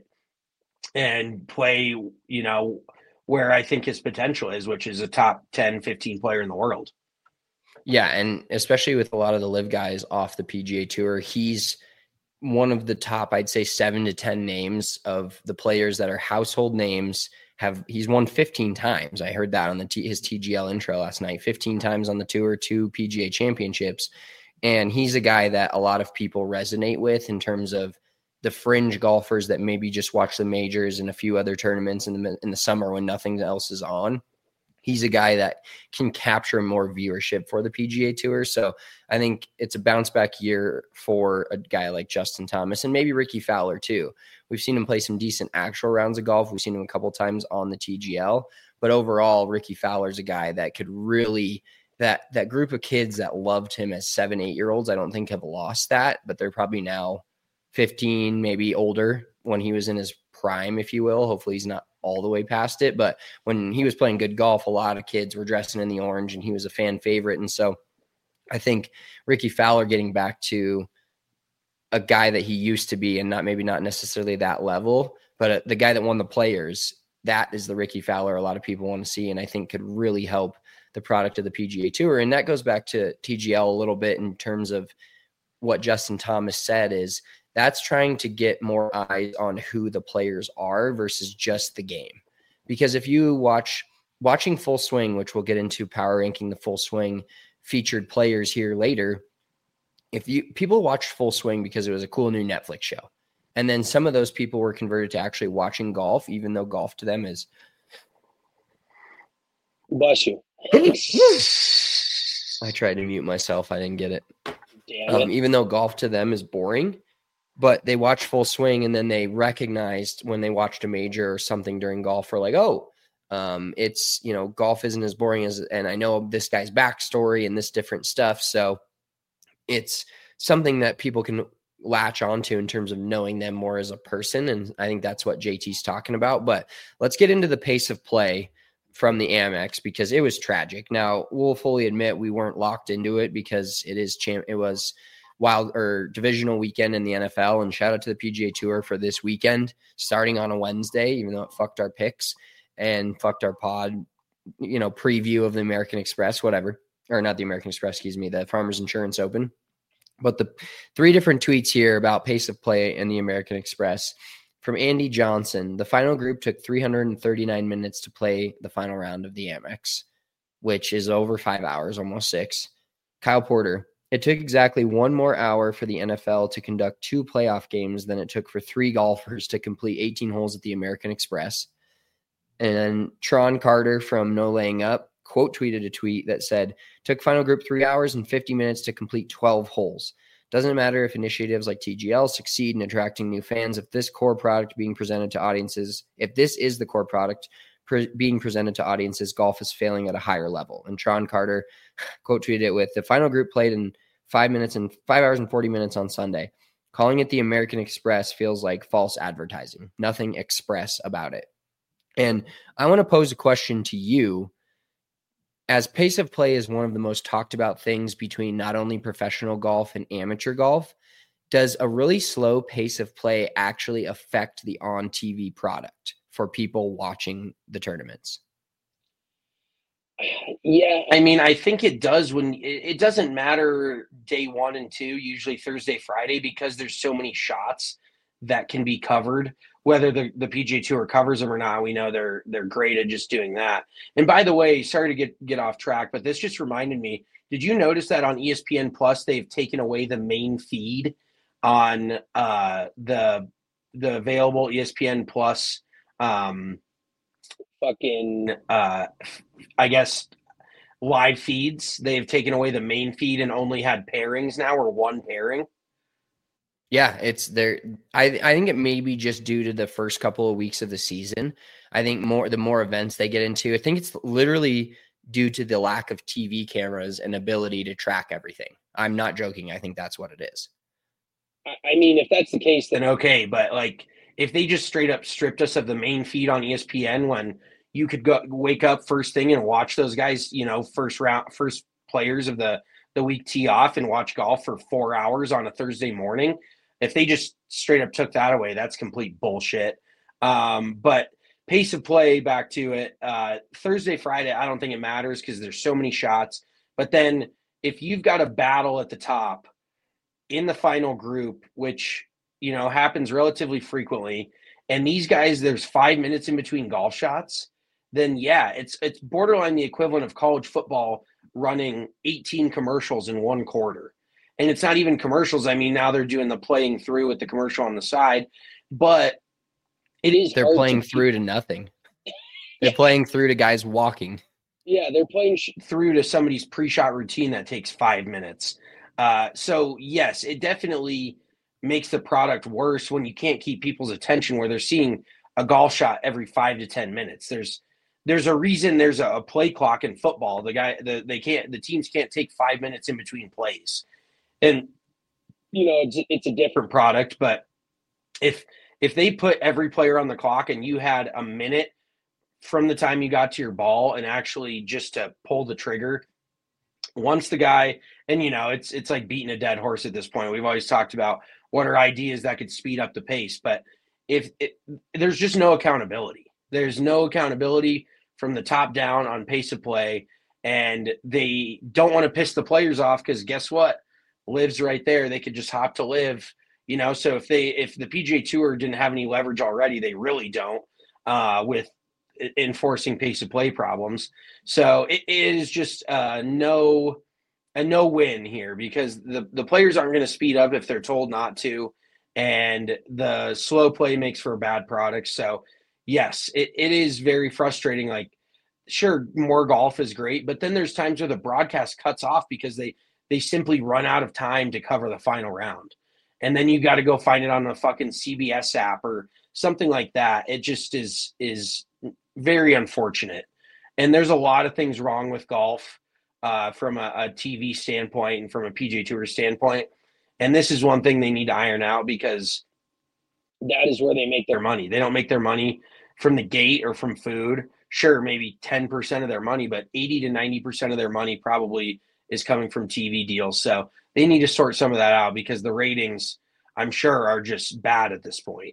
and play, you know, where I think his potential is, which is a top ten, fifteen player in the world. Yeah, and especially with a lot of the live guys off the P G A Tour, he's one of the top, I'd say, seven to ten names of the players that are household names. Have he's won fifteen times. I heard that on the T, his T G L intro last night. fifteen times on the tour, two P G A championships. And he's a guy that a lot of people resonate with in terms of the fringe golfers that maybe just watch the majors and a few other tournaments in the in the summer when nothing else is on. He's a guy that can capture more viewership for the P G A Tour. So I think it's a bounce back year for a guy like Justin Thomas and maybe Ricky Fowler too. We've seen him play some decent actual rounds of golf. We've seen him a couple times on the T G L, but overall Ricky Fowler's a guy that could really, that, that group of kids that loved him as seven, eight year olds, I don't think have lost that, but they're probably now fifteen, maybe older when he was in his prime, if you will. Hopefully he's not all the way past it, but when he was playing good golf, a lot of kids were dressing in the orange and he was a fan favorite. And so I think Ricky Fowler getting back to a guy that he used to be, and not maybe not necessarily that level, but the guy that won the Players, that is the Ricky Fowler a lot of people want to see, and I think could really help the product of the P G A Tour. And that goes back to T G L a little bit in terms of what Justin Thomas said, is that's trying to get more eyes on who the players are versus just the game. Because if you watch watching Full Swing, which we'll get into power ranking the Full Swing featured players here later, if you people watched Full Swing because it was a cool new Netflix show. And then some of those people were converted to actually watching golf, even though golf to them is. Bless you. I tried to mute myself. I didn't get it. Damn Um, it. even though golf to them is boring, but they watched Full Swing and then they recognized when they watched a major or something during golf, for like, oh, um, it's, you know, golf isn't as boring as, and I know this guy's backstory and this different stuff. So it's something that people can latch onto in terms of knowing them more as a person. And I think that's what J T's talking about. But let's get into the pace of play from the Amex, because it was tragic. Now, we'll fully admit we weren't locked into it because it is champ. It was wild or divisional weekend in the N F L, and shout out to the P G A Tour for this weekend starting on a Wednesday, even though it fucked our picks and fucked our pod, you know, preview of the American Express, whatever, or not the American Express, excuse me, the Farmers Insurance Open. But the three different tweets here about pace of play in the American Express from Andy Johnson. The final group took three hundred thirty-nine minutes to play the final round of the Amex, which is over five hours, almost six. Kyle Porter. It took exactly one more hour for the N F L to conduct two playoff games than it took for three golfers to complete eighteen holes at the American Express. And then Tron Carter from No Laying Up quote tweeted a tweet that said, took final group three hours and fifty minutes to complete twelve holes. Doesn't matter if initiatives like T G L succeed in attracting new fans. If this core product being presented to audiences, if this is the core product pre- being presented to audiences, golf is failing at a higher level. And Tron Carter quote tweeted it with, the final group played in five minutes and five hours and forty minutes on Sunday. Calling it the American Express feels like false advertising. Nothing express about it. And I want to pose a question to you. As pace of play is one of the most talked about things between not only professional golf and amateur golf, does a really slow pace of play actually affect the on-T V product for people watching the tournaments? Yeah. I mean, I think it does when it, it doesn't matter day one and two, usually Thursday, Friday, because there's so many shots that can be covered. Whether the, the P G A Tour covers them or not, we know they're they're great at just doing that. And by the way, sorry to get, get off track, but this just reminded me, did you notice that on E S P N Plus, they've taken away the main feed on uh, the the available E S P N Plus um, Fucking, uh, I guess, live feeds? They've taken away the main feed and only had pairings now, or one pairing. Yeah, it's there. I I think it may be just due to the first couple of weeks of the season. I think more the more events they get into, I think it's literally due to the lack of T V cameras and ability to track everything. I'm not joking. I think that's what it is. I I mean, if that's the case, then Then okay, but like if they just straight up stripped us of the main feed on E S P N when you could go wake up first thing and watch those guys, you know, first round, first players of the the week tee off and watch golf for four hours on a Thursday morning. If they just straight up took that away, that's complete bullshit. Um, but pace of play, back to it, uh, Thursday, Friday, I don't think it matters because there's so many shots. But then if you've got a battle at the top in the final group, which, you know, happens relatively frequently, and these guys, there's five minutes in between golf shots, then yeah, it's it's borderline the equivalent of college football running eighteen commercials in one quarter. And it's not even commercials. I mean, now they're doing the playing through with the commercial on the side, but it is. They're hard playing to through to nothing. They're playing through to guys walking. Yeah, they're playing sh- through to somebody's pre-shot routine that takes five minutes. Uh, so yes, it definitely makes the product worse when you can't keep people's attention, where they're seeing a golf shot every five to ten minutes. There's there's a reason there's a, a play clock in football. The guy the they can't the teams can't take five minutes in between plays. And you know, it's it's a different. different product, but if if they put every player on the clock and you had a minute from the time you got to your ball and actually just to pull the trigger, once the guy, and you know, it's it's like beating a dead horse at this point. We've always talked about what are ideas that could speed up the pace, but if it, there's just no accountability, there's no accountability from the top down on pace of play. and they don't want to piss the players off because guess what? Live's right there. They could just hop to Live, you know. So if they if the P G A Tour didn't have any leverage already, they really don't uh, with enforcing pace of play problems. So it, it is just uh, no a no win here because the the players aren't going to speed up if they're told not to, and the slow play makes for a bad product. So yes, it, it is very frustrating. Like, sure, more golf is great, but then there's times where the broadcast cuts off because they they simply run out of time to cover the final round. And then you got to go find it on the fucking C B S app or something like that. It just is is very unfortunate. And there's a lot of things wrong with golf uh, from a, a T V standpoint and from a P G A Tour standpoint. And this is one thing they need to iron out because that is where they make their money. They don't make their money from the gate or from food. Sure, maybe ten percent of their money, but eighty to ninety percent of their money probably is coming from T V deals. So they need to sort some of that out because the ratings, I'm sure, are just bad at this point.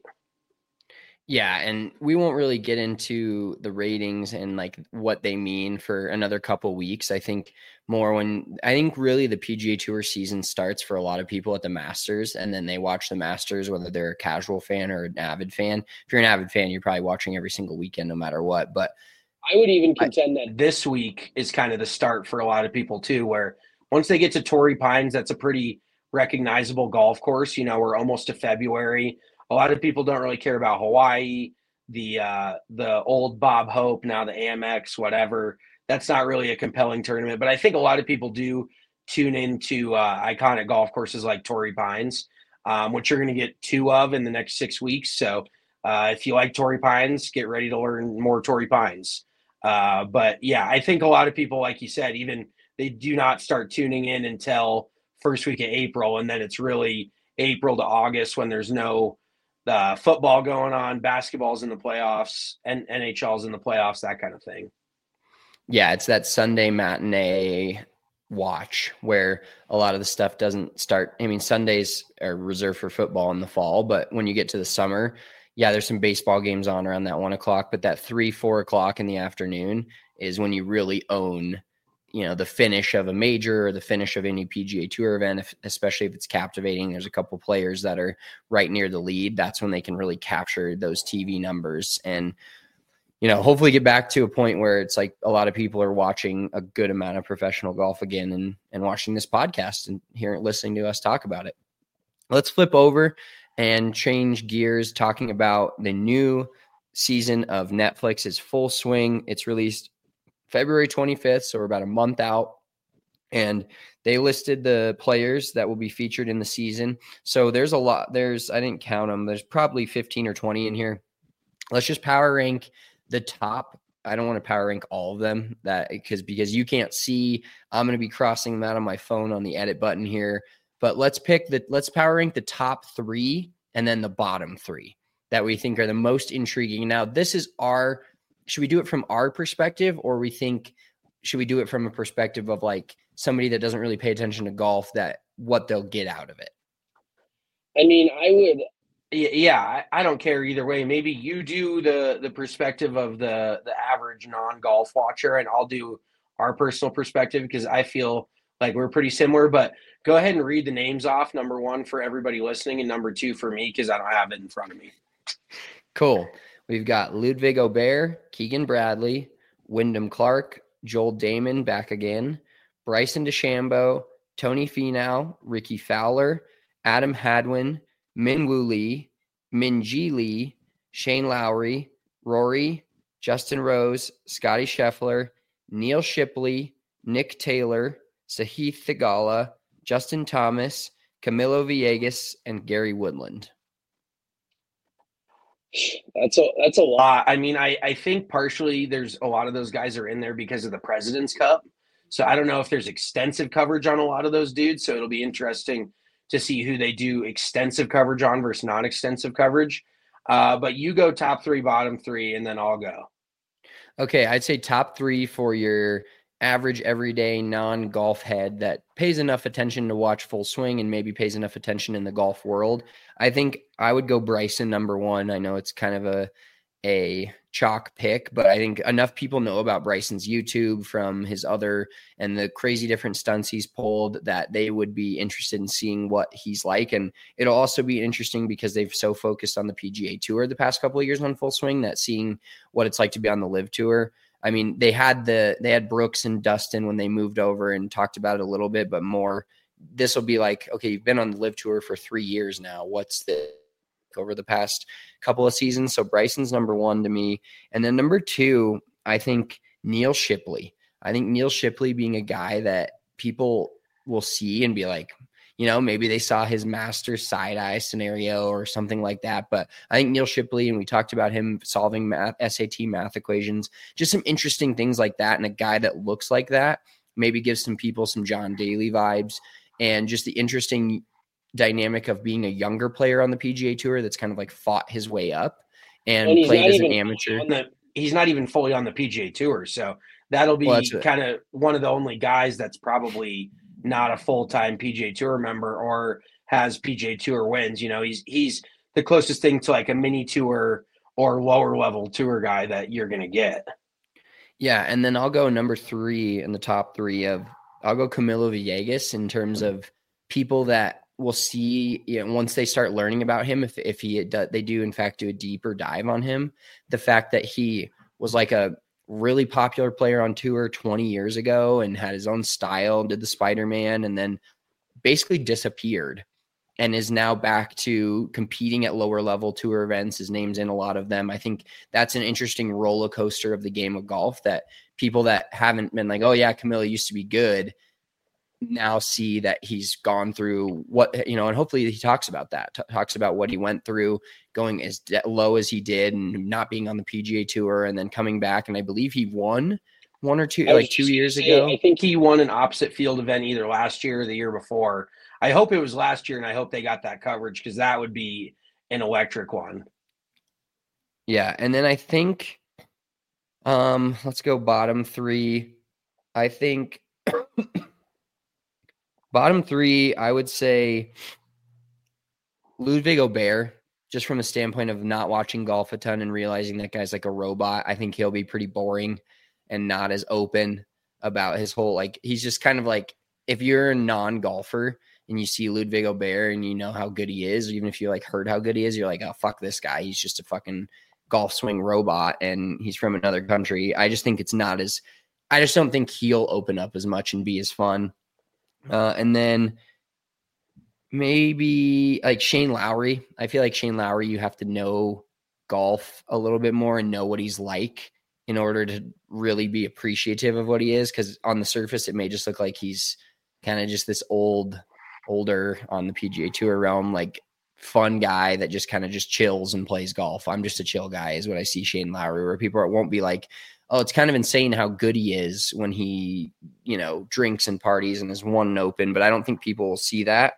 Yeah, and we won't really get into the ratings and like what they mean for another couple weeks. I think more when I think really the P G A Tour season starts for a lot of people at the Masters, and then they watch the Masters, whether they're a casual fan or an avid fan. If you're an avid fan, you're probably watching every single weekend, no matter what. But I would even contend that this week is kind of the start for a lot of people too, where once they get to Torrey Pines, that's a pretty recognizable golf course. You know, we're almost to February. A lot of people don't really care about Hawaii, the uh, the old Bob Hope, now the Amex, whatever. That's not really a compelling tournament. But I think a lot of people do tune into uh, iconic golf courses like Torrey Pines, um, which you're going to get two of in the next six weeks. So uh, if you like Torrey Pines, get ready to learn more Torrey Pines. Uh, but yeah, I think a lot of people, like you said, even they do not start tuning in until first week of April. And then it's really April to August when there's no uh, football going on, basketball's in the playoffs, and N H L's in the playoffs, that kind of thing. Yeah, it's that Sunday matinee watch where a lot of the stuff doesn't start. I mean, Sundays are reserved for football in the fall, but when you get to the summer, yeah, there's some baseball games on around that one o'clock, but that three, four o'clock in the afternoon is when you really own, you know, the finish of a major or the finish of any P G A Tour event, if, especially if it's captivating. There's a couple players that are right near the lead. That's when they can really capture those T V numbers and, you know, hopefully get back to a point where it's like a lot of people are watching a good amount of professional golf again and, and watching this podcast and hearing, listening to us talk about it. Let's flip over and change gears, talking about the new season of Netflix's Full Swing. It's released February twenty-fifth, so we're about a month out. And they listed the players that will be featured in the season. So there's a lot. There's, I didn't count them. There's probably fifteen or twenty in here. Let's just power rank the top. I don't want to power rank all of them that because because you can't see. I'm going to be crossing them out on my phone on the edit button here. But let's pick the let's power rank the top three and then the bottom three that we think are the most intriguing. Now, this is our, should we do it from our perspective, or we think, should we do it from a perspective of like somebody that doesn't really pay attention to golf, that what they'll get out of it? I mean, I would. Yeah, I, I don't care either way. Maybe you do the the perspective of the the average non-golf watcher, and I'll do our personal perspective because I feel like we're pretty similar. But go ahead and read the names off. Number one for everybody listening, and number two for me because I don't have it in front of me. Cool. We've got Ludwig Aubert, Keegan Bradley, Wyndham Clark, Joel Damon back again, Bryson DeChambeau, Tony Finau, Ricky Fowler, Adam Hadwin, Minwoo Lee, Minjee Lee, Shane Lowry, Rory, Justin Rose, Scotty Scheffler, Neil Shipley, Nick Taylor, Sahith Theegala, Justin Thomas, Camilo Villegas, and Gary Woodland. That's a that's a lot. I mean, I, I think partially there's a lot of those guys are in there because of the President's Cup. So I don't know if there's extensive coverage on a lot of those dudes. So it'll be interesting to see who they do extensive coverage on versus non-extensive coverage. Uh, but you go top three, bottom three, and then I'll go. Okay, I'd say top three for your average, everyday, non-golf head that pays enough attention to watch Full Swing and maybe pays enough attention in the golf world. I think I would go Bryson number one. I know it's kind of a a chalk pick, but I think enough people know about Bryson's YouTube from his other and the crazy different stunts he's pulled that they would be interested in seeing what he's like. And it'll also be interesting because they've so focused on the P G A Tour the past couple of years on Full Swing that seeing what it's like to be on the Live Tour. I mean, they had the they had Brooks and Dustin when they moved over and talked about it a little bit, but more this will be like, okay, you've been on the Live Tour for three years now. What's the over the past couple of seasons? So Bryson's number one to me. And then number two, I think Neil Shipley. I think Neil Shipley being a guy that people will see and be like, you know, maybe they saw his master side eye scenario or something like that. But I think Neil Shipley, and we talked about him solving math, S A T math equations, just some interesting things like that. And a guy that looks like that maybe gives some people some John Daly vibes, and just the interesting dynamic of being a younger player on the P G A Tour that's kind of like fought his way up and, and played as an amateur. The, he's not even fully on the P G A Tour. So that'll be well, kind of one of the only guys that's probably not a full-time P G A Tour member or has P G A Tour wins. You know, he's, he's the closest thing to like a mini tour or lower level tour guy that you're going to get. Yeah. And then I'll go number three in the top three of, I'll go Camilo Villegas in terms of people that will see, you know, once they start learning about him, if, if he, they do in fact do a deeper dive on him, the fact that he was like a really popular player on tour twenty years ago and had his own style, did the Spider-Man, and then basically disappeared and is now back to competing at lower level tour events. His name's in a lot of them. I think that's an interesting roller coaster of the game of golf that people that haven't been like, oh yeah, Camilo used to be good, now see that he's gone through what, you know, and hopefully he talks about that, t- talks about what he went through going as de- low as he did and not being on the P G A Tour and then coming back. And I believe he won one or two, like two years say, ago. I think he won an opposite field event either last year or the year before. I hope it was last year, and I hope they got that coverage because that would be an electric one. Yeah. And then I think, um, let's go bottom three. I think bottom three, I would say Ludwig Aubert, just from a standpoint of not watching golf a ton and realizing that guy's like a robot. I think he'll be pretty boring and not as open about his whole, like, he's just kind of like, if you're a non-golfer and you see Ludwig Aubert and you know how good he is, even if you like heard how good he is, you're like, oh, fuck this guy. He's just a fucking golf swing robot and he's from another country. I just think it's not as, I just don't think he'll open up as much and be as fun. Uh, and then maybe like Shane Lowry. I feel like Shane Lowry, you have to know golf a little bit more and know what he's like in order to really be appreciative of what he is. Because on the surface, it may just look like he's kind of just this old, older on the P G A Tour realm, like fun guy that just kind of just chills and plays golf. I'm just a chill guy is what I see Shane Lowry, where people won't be like, oh, it's kind of insane how good he is when he, you know, drinks and parties and is one and open, but I don't think people will see that.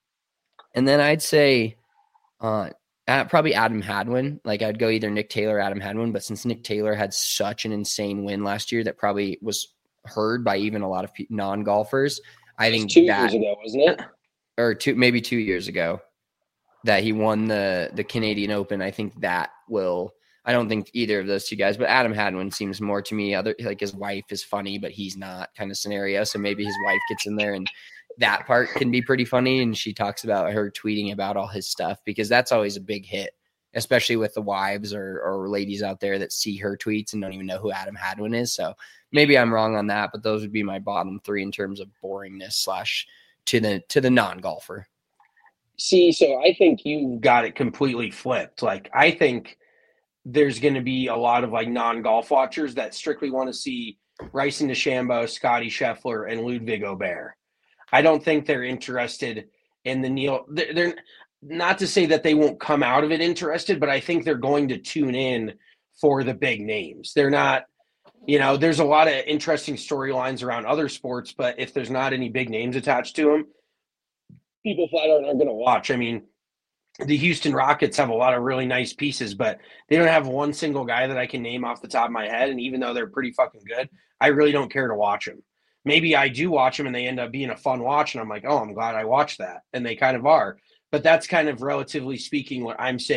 And then I'd say uh, probably Adam Hadwin. Like I'd go either Nick Taylor or Adam Hadwin, but since Nick Taylor had such an insane win last year that probably was heard by even a lot of non-golfers, I think two that, years ago, wasn't it? Or two, maybe two years ago that he won the, the Canadian Open. I think that will, I don't think either of those two guys, but Adam Hadwin seems more to me other, like his wife is funny, but he's not kind of scenario. So maybe his wife gets in there and that part can be pretty funny. And she talks about her tweeting about all his stuff because that's always a big hit, especially with the wives or, or ladies out there that see her tweets and don't even know who Adam Hadwin is. So maybe I'm wrong on that, but those would be my bottom three in terms of boringness slash to the, to the non-golfer. See, so I think you got it completely flipped. Like, I think there's going to be a lot of like non-golf watchers that strictly want to see Bryson DeChambeau, Scotty Scheffler, and Ludwig Aubert. I don't think they're interested in the Neil. They're, they're not to say that they won't come out of it interested, but I think they're going to tune in for the big names. They're not, you know, there's a lot of interesting storylines around other sports, but if there's not any big names attached to them, people flat out aren't going to watch. I mean, the Houston Rockets have a lot of really nice pieces, but they don't have one single guy that I can name off the top of my head. And even though they're pretty fucking good, I really don't care to watch them. Maybe I do watch them and they end up being a fun watch. And I'm like, oh, I'm glad I watched that. And they kind of are. But that's kind of relatively speaking what I'm saying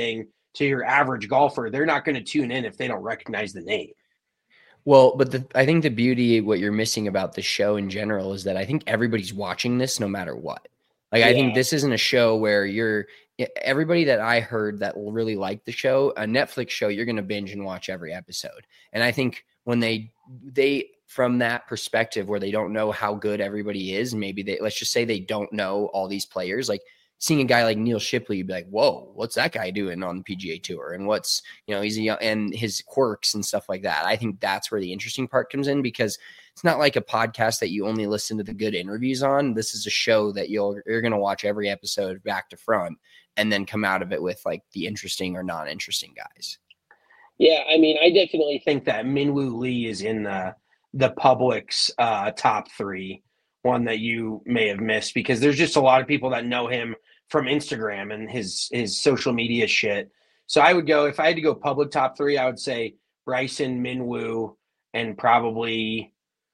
to your average golfer, they're not going to tune in if they don't recognize the name. Well, but the, I think the beauty, what you're missing about the show in general is that I think everybody's watching this no matter what. Like, yeah. I think this isn't a show where you're everybody that I heard that will really like the show, a Netflix show, you're going to binge and watch every episode. And I think when they, they, from that perspective where they don't know how good everybody is, maybe they, let's just say they don't know all these players, like seeing a guy like Neil Shipley, you'd be like, whoa, what's that guy doing on the P G A Tour? And what's, you know, he's a young, and his quirks and stuff like that. I think that's where the interesting part comes in, because it's not like a podcast that you only listen to the good interviews on. This is a show that you'll, you're going to watch every episode back to front and then come out of it with like the interesting or non-interesting guys. Yeah. I mean, I definitely think that Minwoo Lee is in the, the public's uh, top three, one that you may have missed, because there's just a lot of people that know him from Instagram and his, his social media shit. So I would go, if I had to go public top three, I would say Bryson, Minwoo, and probably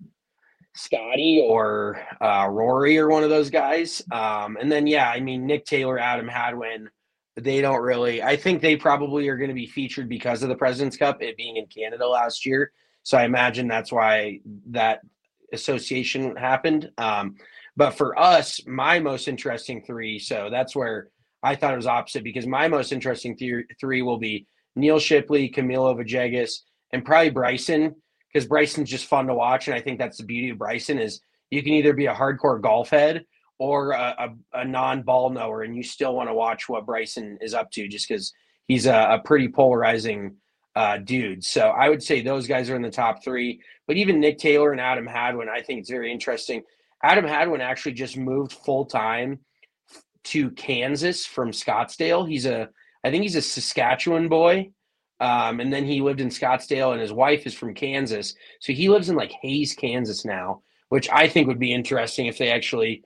Scotty or uh, Rory or one of those guys. Um, and then, yeah, I mean, Nick Taylor, Adam Hadwin, they don't really, I think they probably are going to be featured because of the President's Cup, it being in Canada last year. So I imagine that's why that association happened. Um, but for us, my most interesting three, so that's where I thought it was opposite, because my most interesting th- three will be Neil Shipley, Camilo Villegas, and probably Bryson, because Bryson's just fun to watch. And I think that's the beauty of Bryson, is you can either be a hardcore golf head or a, a, a non-ball knower, and you still want to watch what Bryson is up to, just because he's a, a pretty polarizing uh, dude. So I would say those guys are in the top three. But even Nick Taylor and Adam Hadwin, I think it's very interesting. Adam Hadwin actually just moved full-time to Kansas from Scottsdale. He's a, I think he's a Saskatchewan boy. Um, and then he lived in Scottsdale, and his wife is from Kansas. So he lives in like Hayes, Kansas now, which I think would be interesting if they actually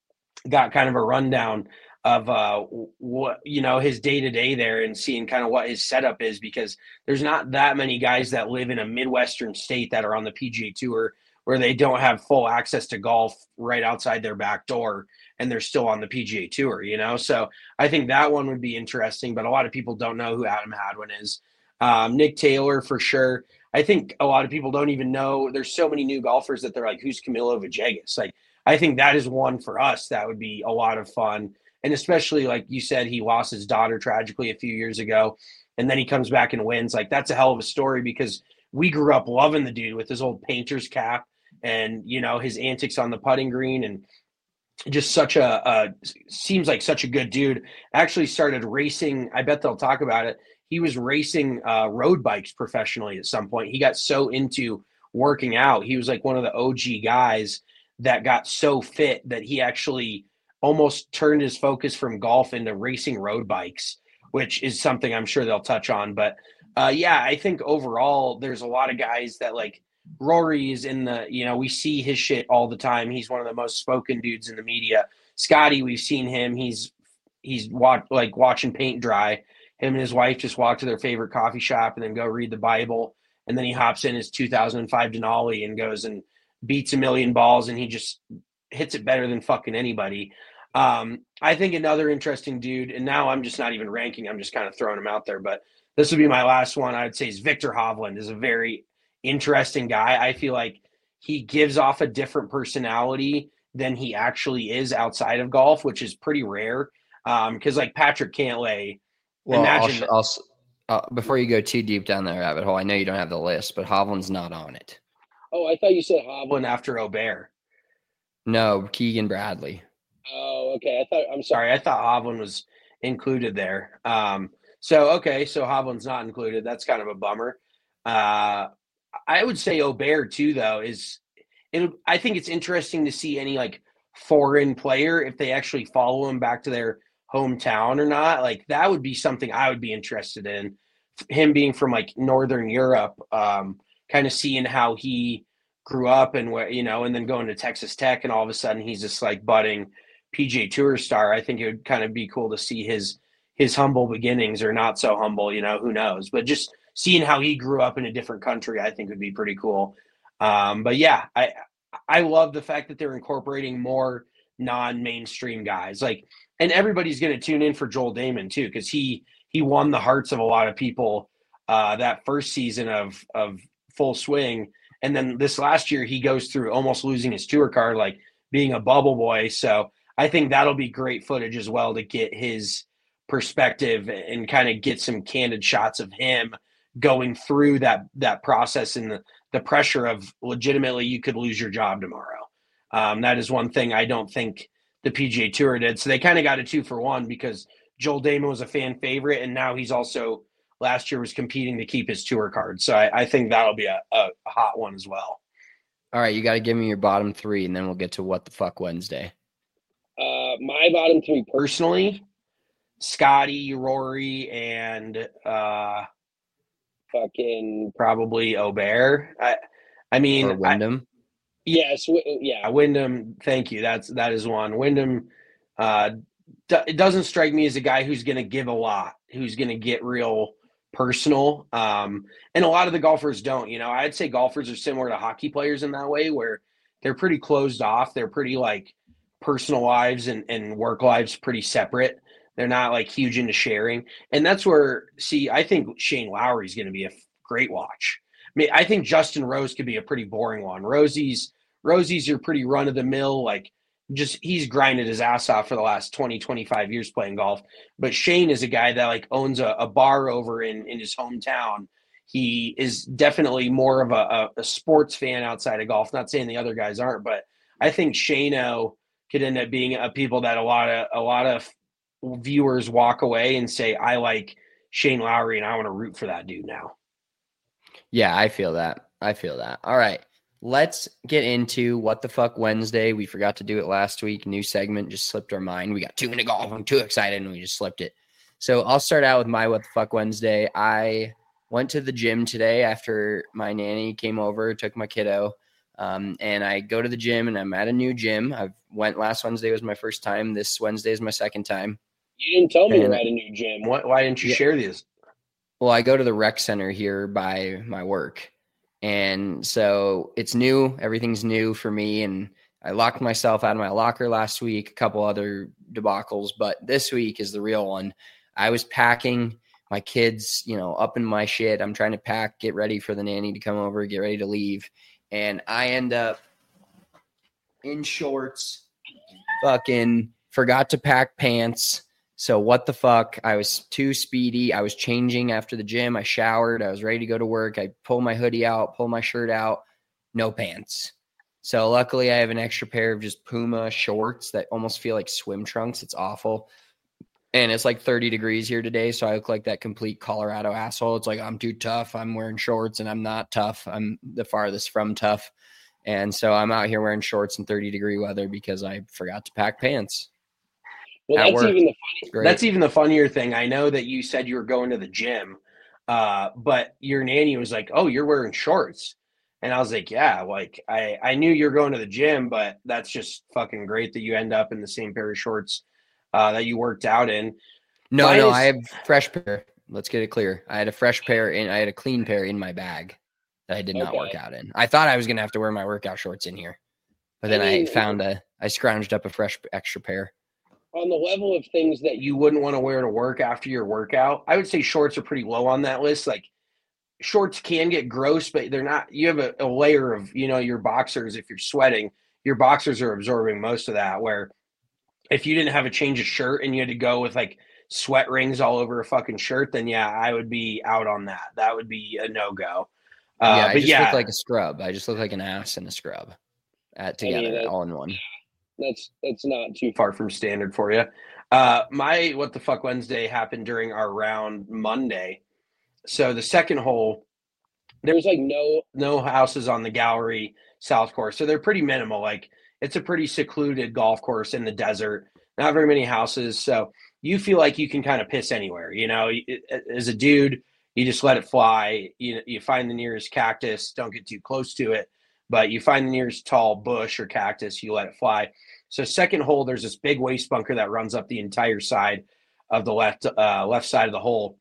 got kind of a rundown of uh, what, you know, his day-to-day there, and seeing kind of what his setup is, because there's not that many guys that live in a Midwestern state that are on the P G A Tour where they don't have full access to golf right outside their back door, and they're still on the P G A Tour, you know? So I think that one would be interesting, but a lot of people don't know who Adam Hadwin is. Um, Nick Taylor, for sure. I think a lot of people don't even know. There's so many new golfers that they're like, who's Camilo Villegas? Like, I think that is one for us that would be a lot of fun. And especially, like you said, he lost his daughter tragically a few years ago, and then he comes back and wins. Like, that's a hell of a story, because we grew up loving the dude with his old painter's cap and, you know, his antics on the putting green, and just such a, a seems like such a good dude. Actually started racing. I bet they'll talk about it. He was racing uh, road bikes professionally at some point. He got so into working out. He was like one of the O G guys that got so fit that he actually almost turned his focus from golf into racing road bikes, which is something I'm sure they'll touch on. But uh, yeah, I think overall there's a lot of guys that, like, Rory is in the, you know, we see his shit all the time. He's one of the most spoken dudes in the media. Scotty, we've seen him. He's, he's watch, like watching paint dry. Him and his wife just walk to their favorite coffee shop and then go read the Bible. And then he hops in his two thousand five Denali and goes and beats a million balls, and he just hits it better than fucking anybody. Um, I think another interesting dude, and now I'm just not even ranking, I'm just kind of throwing him out there, but this would be my last one. I would say is Victor Hovland is a very interesting guy. I feel like he gives off a different personality than he actually is outside of golf, which is pretty rare. Um, because like Patrick Cantlay, well, imagine I'll, I'll, uh, before you go too deep down that rabbit hole, I know you don't have the list, but Hovland's not on it. Oh, I thought you said Hovland after Aubert. No, Keegan Bradley. Oh, okay. I thought, I'm sorry. sorry. I thought Hovland was included there. Um, so, okay. So Hovland's not included. That's kind of a bummer. Uh, I would say Aubert too, though, is it. I think it's interesting to see any like foreign player, if they actually follow him back to their hometown or not. Like, that would be something I would be interested in. Him being from like Northern Europe, um, kind of seeing how he grew up and where, you know, and then going to Texas Tech, and all of a sudden he's this like budding P G A Tour star. I think it would kind of be cool to see his his humble beginnings, or not so humble, you know, who knows, but just seeing how he grew up in a different country, I think would be pretty cool. Um, but yeah, I I love the fact that they're incorporating more non-mainstream guys. Like, and everybody's going to tune in for Joel Damon too, because he he won the hearts of a lot of people uh, that first season of of Full Swing. And then this last year, he goes through almost losing his tour card, like being a bubble boy. So I think that'll be great footage as well to get his perspective and kind of get some candid shots of him going through that that process and the, the pressure of legitimately you could lose your job tomorrow. Um, that is one thing I don't think the P G A Tour did. So they kind of got a two for one because Joel Dahmen was a fan favorite, and now he's also last year was competing to keep his tour card. So I, I think that'll be a, a hot one as well. All right, you got to give me your bottom three, and then we'll get to What the Fuck Wednesday. Uh, my bottom three personally, Scotty, Rory, and uh, fucking probably Aubert. I, I mean, or Wyndham. I, yes, w- yeah, Wyndham. Thank you. That's that is one. Wyndham. Uh, d- it doesn't strike me as a guy who's going to give a lot, who's going to get real personal. Um, and a lot of the golfers don't. You know, I'd say golfers are similar to hockey players in that way, where they're pretty closed off. They're pretty like personal lives and, and work lives pretty separate. They're not like huge into sharing. And that's where, see, I think Shane Lowry is going to be a great watch. I mean, I think Justin Rose could be a pretty boring one. Rosie's, Rosie's your pretty run of the mill, like just he's grinded his ass off for the last twenty, twenty-five years playing golf. But Shane is a guy that like owns a, a bar over in, in his hometown. He is definitely more of a, a, a sports fan outside of golf. Not saying the other guys aren't, but I think Shane-O could end up being a people that a lot of a lot of viewers walk away and say, I like Shane Lowry and I want to root for that dude now. Yeah, I feel that. I feel that. All right. Let's get into What the Fuck Wednesday. We forgot to do it last week. New segment just slipped our mind. We got two minute golf. I'm too excited and we just slipped it. So I'll start out with my What the Fuck Wednesday. I went to the gym today after my nanny came over, took my kiddo. Um, and I go to the gym and I'm at a new gym. I went last Wednesday was my first time. This Wednesday is my second time. You didn't tell me and, you're at a new gym. Why, why didn't you yeah, share these? Well, I go to the rec center here by my work. And so it's new. Everything's new for me. And I locked myself out of my locker last week, a couple other debacles, but this week is the real one. I was packing my kids, you know, up in my shit. I'm trying to pack, get ready for the nanny to come over, get ready to leave. And I end up in shorts, fucking forgot to pack pants. So what the fuck? I was too speedy. I was changing after the gym. I showered. I was ready to go to work. I pull my hoodie out, pull my shirt out, no pants. So luckily I have an extra pair of just Puma shorts that almost feel like swim trunks. It's awful. And it's like thirty degrees here today. So I look like that complete Colorado asshole. It's like, I'm too tough. I'm wearing shorts and I'm not tough. I'm the farthest from tough. And so I'm out here wearing shorts in thirty degree weather because I forgot to pack pants. Well, At that's work. even the funny. That's even the funnier thing. I know that you said you were going to the gym, uh, but your nanny was like, oh, you're wearing shorts. And I was like, yeah, like I, I knew you were going to the gym, but that's just fucking great that you end up in the same pair of shorts uh, that you worked out in. No, Mine no, is- I have fresh pair. Let's get it clear. I had a fresh pair and I had a clean pair in my bag that I did not Okay. work out in. I thought I was going to have to wear my workout shorts in here, but then I I mean, found a, I scrounged up a fresh extra pair. On the level of things that you You wouldn't want to wear to work after your workout. I would say shorts are pretty low on that list. Like shorts can get gross, but they're not, you have a, a layer of, you know, your boxers, if you're sweating, your boxers are absorbing most of that, where if you didn't have a change of shirt and you had to go with like sweat rings all over a fucking shirt, then yeah, I would be out on that. That would be a no-go. Uh, yeah, I but just yeah, look like a scrub. I just look like an ass in a scrub at I mean, together, that- all in one. that's that's not too far from standard for you. Uh, my What the Fuck Wednesday happened during our round Monday. So the second hole, There's like no no houses on the Gallery South course. So they're pretty minimal. Like it's a pretty secluded golf course in the desert, not very many houses. So you feel like you can kind of piss anywhere, you know, as a dude, you just let it fly. You, you find the nearest cactus, don't get too close to it, but you find the nearest tall bush or cactus, you let it fly. So second hole, there's this big waste bunker that runs up the entire side of the left, uh, left side of the hole.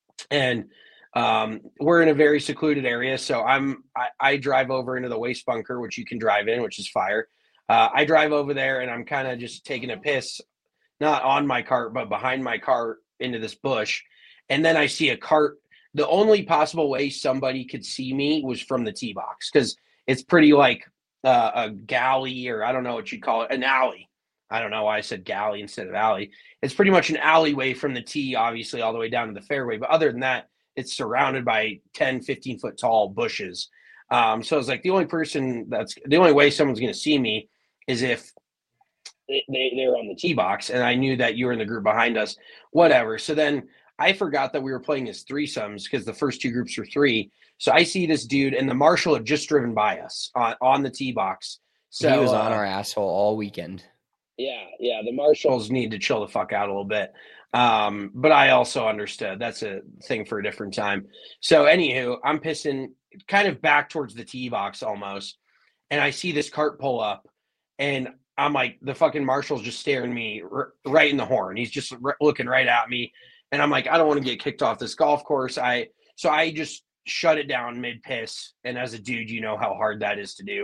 And um, we're in a very secluded area. So I'm, I, I drive over into the waste bunker, which you can drive in, which is fire. Uh, I drive over there and I'm kind of just taking a piss, not on my cart, but behind my cart into this bush. And then I see a cart. The only possible way somebody could see me was from the tee box, because it's pretty like uh, a galley, or I don't know what you'd call it, an alley. I don't know why I said galley instead of alley. It's pretty much an alleyway from the tee, obviously, all the way down to the fairway. But other than that, it's surrounded by ten, fifteen foot tall bushes. Um, so it's like the only person that's the only way someone's going to see me is if they, they, they're on the tee box. And I knew that you were in the group behind us, whatever. So then I forgot that we were playing as threesomes, because the first two groups were three. So I see this dude, and the marshal had just driven by us on, on the tee box. So he was on uh, our asshole all weekend. Yeah, yeah. The marshals need to chill the fuck out a little bit. Um, but I also understood that's a thing for a different time. So anywho, I'm pissing kind of back towards the tee box almost. And I see this cart pull up, and I'm like, the fucking marshal's just staring me r- right in the horn. He's just r- looking right at me. And I'm like, I don't want to get kicked off this golf course. I, so I just shut it down mid piss. And as a dude, you know how hard that is to do.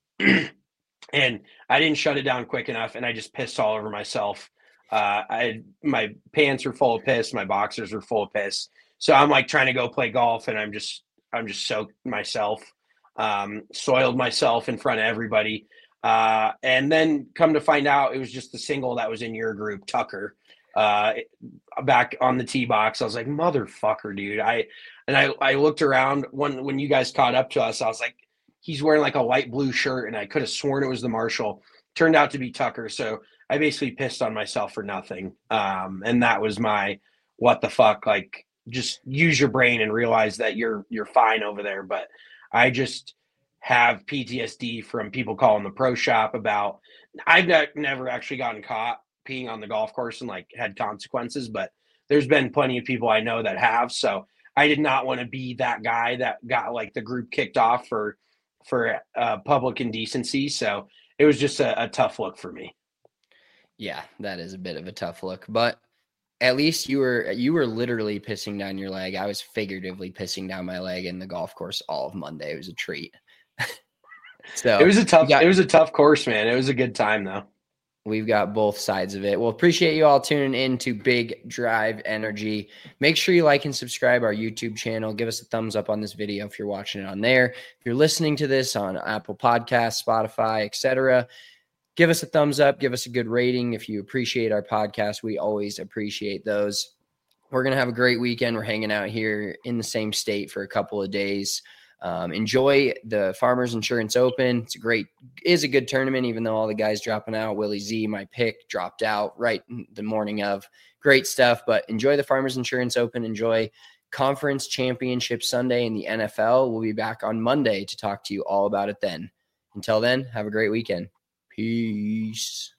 And I didn't shut it down quick enough, and I just pissed all over myself. Uh, I my pants were full of piss, my boxers were full of piss. So I'm like trying to go play golf, and I'm just I'm just soaked myself, um, soiled myself in front of everybody. Uh, and then come to find out, it was just the single that was in your group, Tucker, uh, back on the tee box. I was like, motherfucker, dude. I and I I looked around when when you guys caught up to us. I was like, he's wearing like a light blue shirt, and I could have sworn it was the marshal. Turned out to be Tucker. So I basically pissed on myself for nothing. Um, and that was my, what the fuck, like, just use your brain and realize that you're, you're fine over there. But I just have P T S D from people calling the pro shop about, I've not, never actually gotten caught peeing on the golf course and like had consequences, but there's been plenty of people I know that have. So I did not want to be that guy that got like the group kicked off for, for uh, public indecency. So it was just a, a tough look for me. Yeah, that is a bit of a tough look, but at least you were you were literally pissing down your leg. I was figuratively pissing down my leg in the golf course all of Monday. It was a treat. So it was a tough got, it was a tough course, man. It was a good time though. We've got both sides of it. Well, appreciate you all tuning in to Big Drive Energy. Make sure you like and subscribe our YouTube channel. Give us a thumbs up on this video if you're watching it on there. If you're listening to this on Apple Podcasts, Spotify, et cetera, give us a thumbs up. Give us a good rating. If you appreciate our podcast, we always appreciate those. We're going to have a great weekend. We're hanging out here in the same state for a couple of days. Um, enjoy the Farmers Insurance Open. It's a great, is a good tournament, even though all the guys dropping out. Willie Z, my pick, dropped out right the morning of. Great stuff, but enjoy the Farmers Insurance Open. Enjoy Conference Championship Sunday in the N F L. We'll be back on Monday to talk to you all about it then. Until then, have a great weekend. Peace.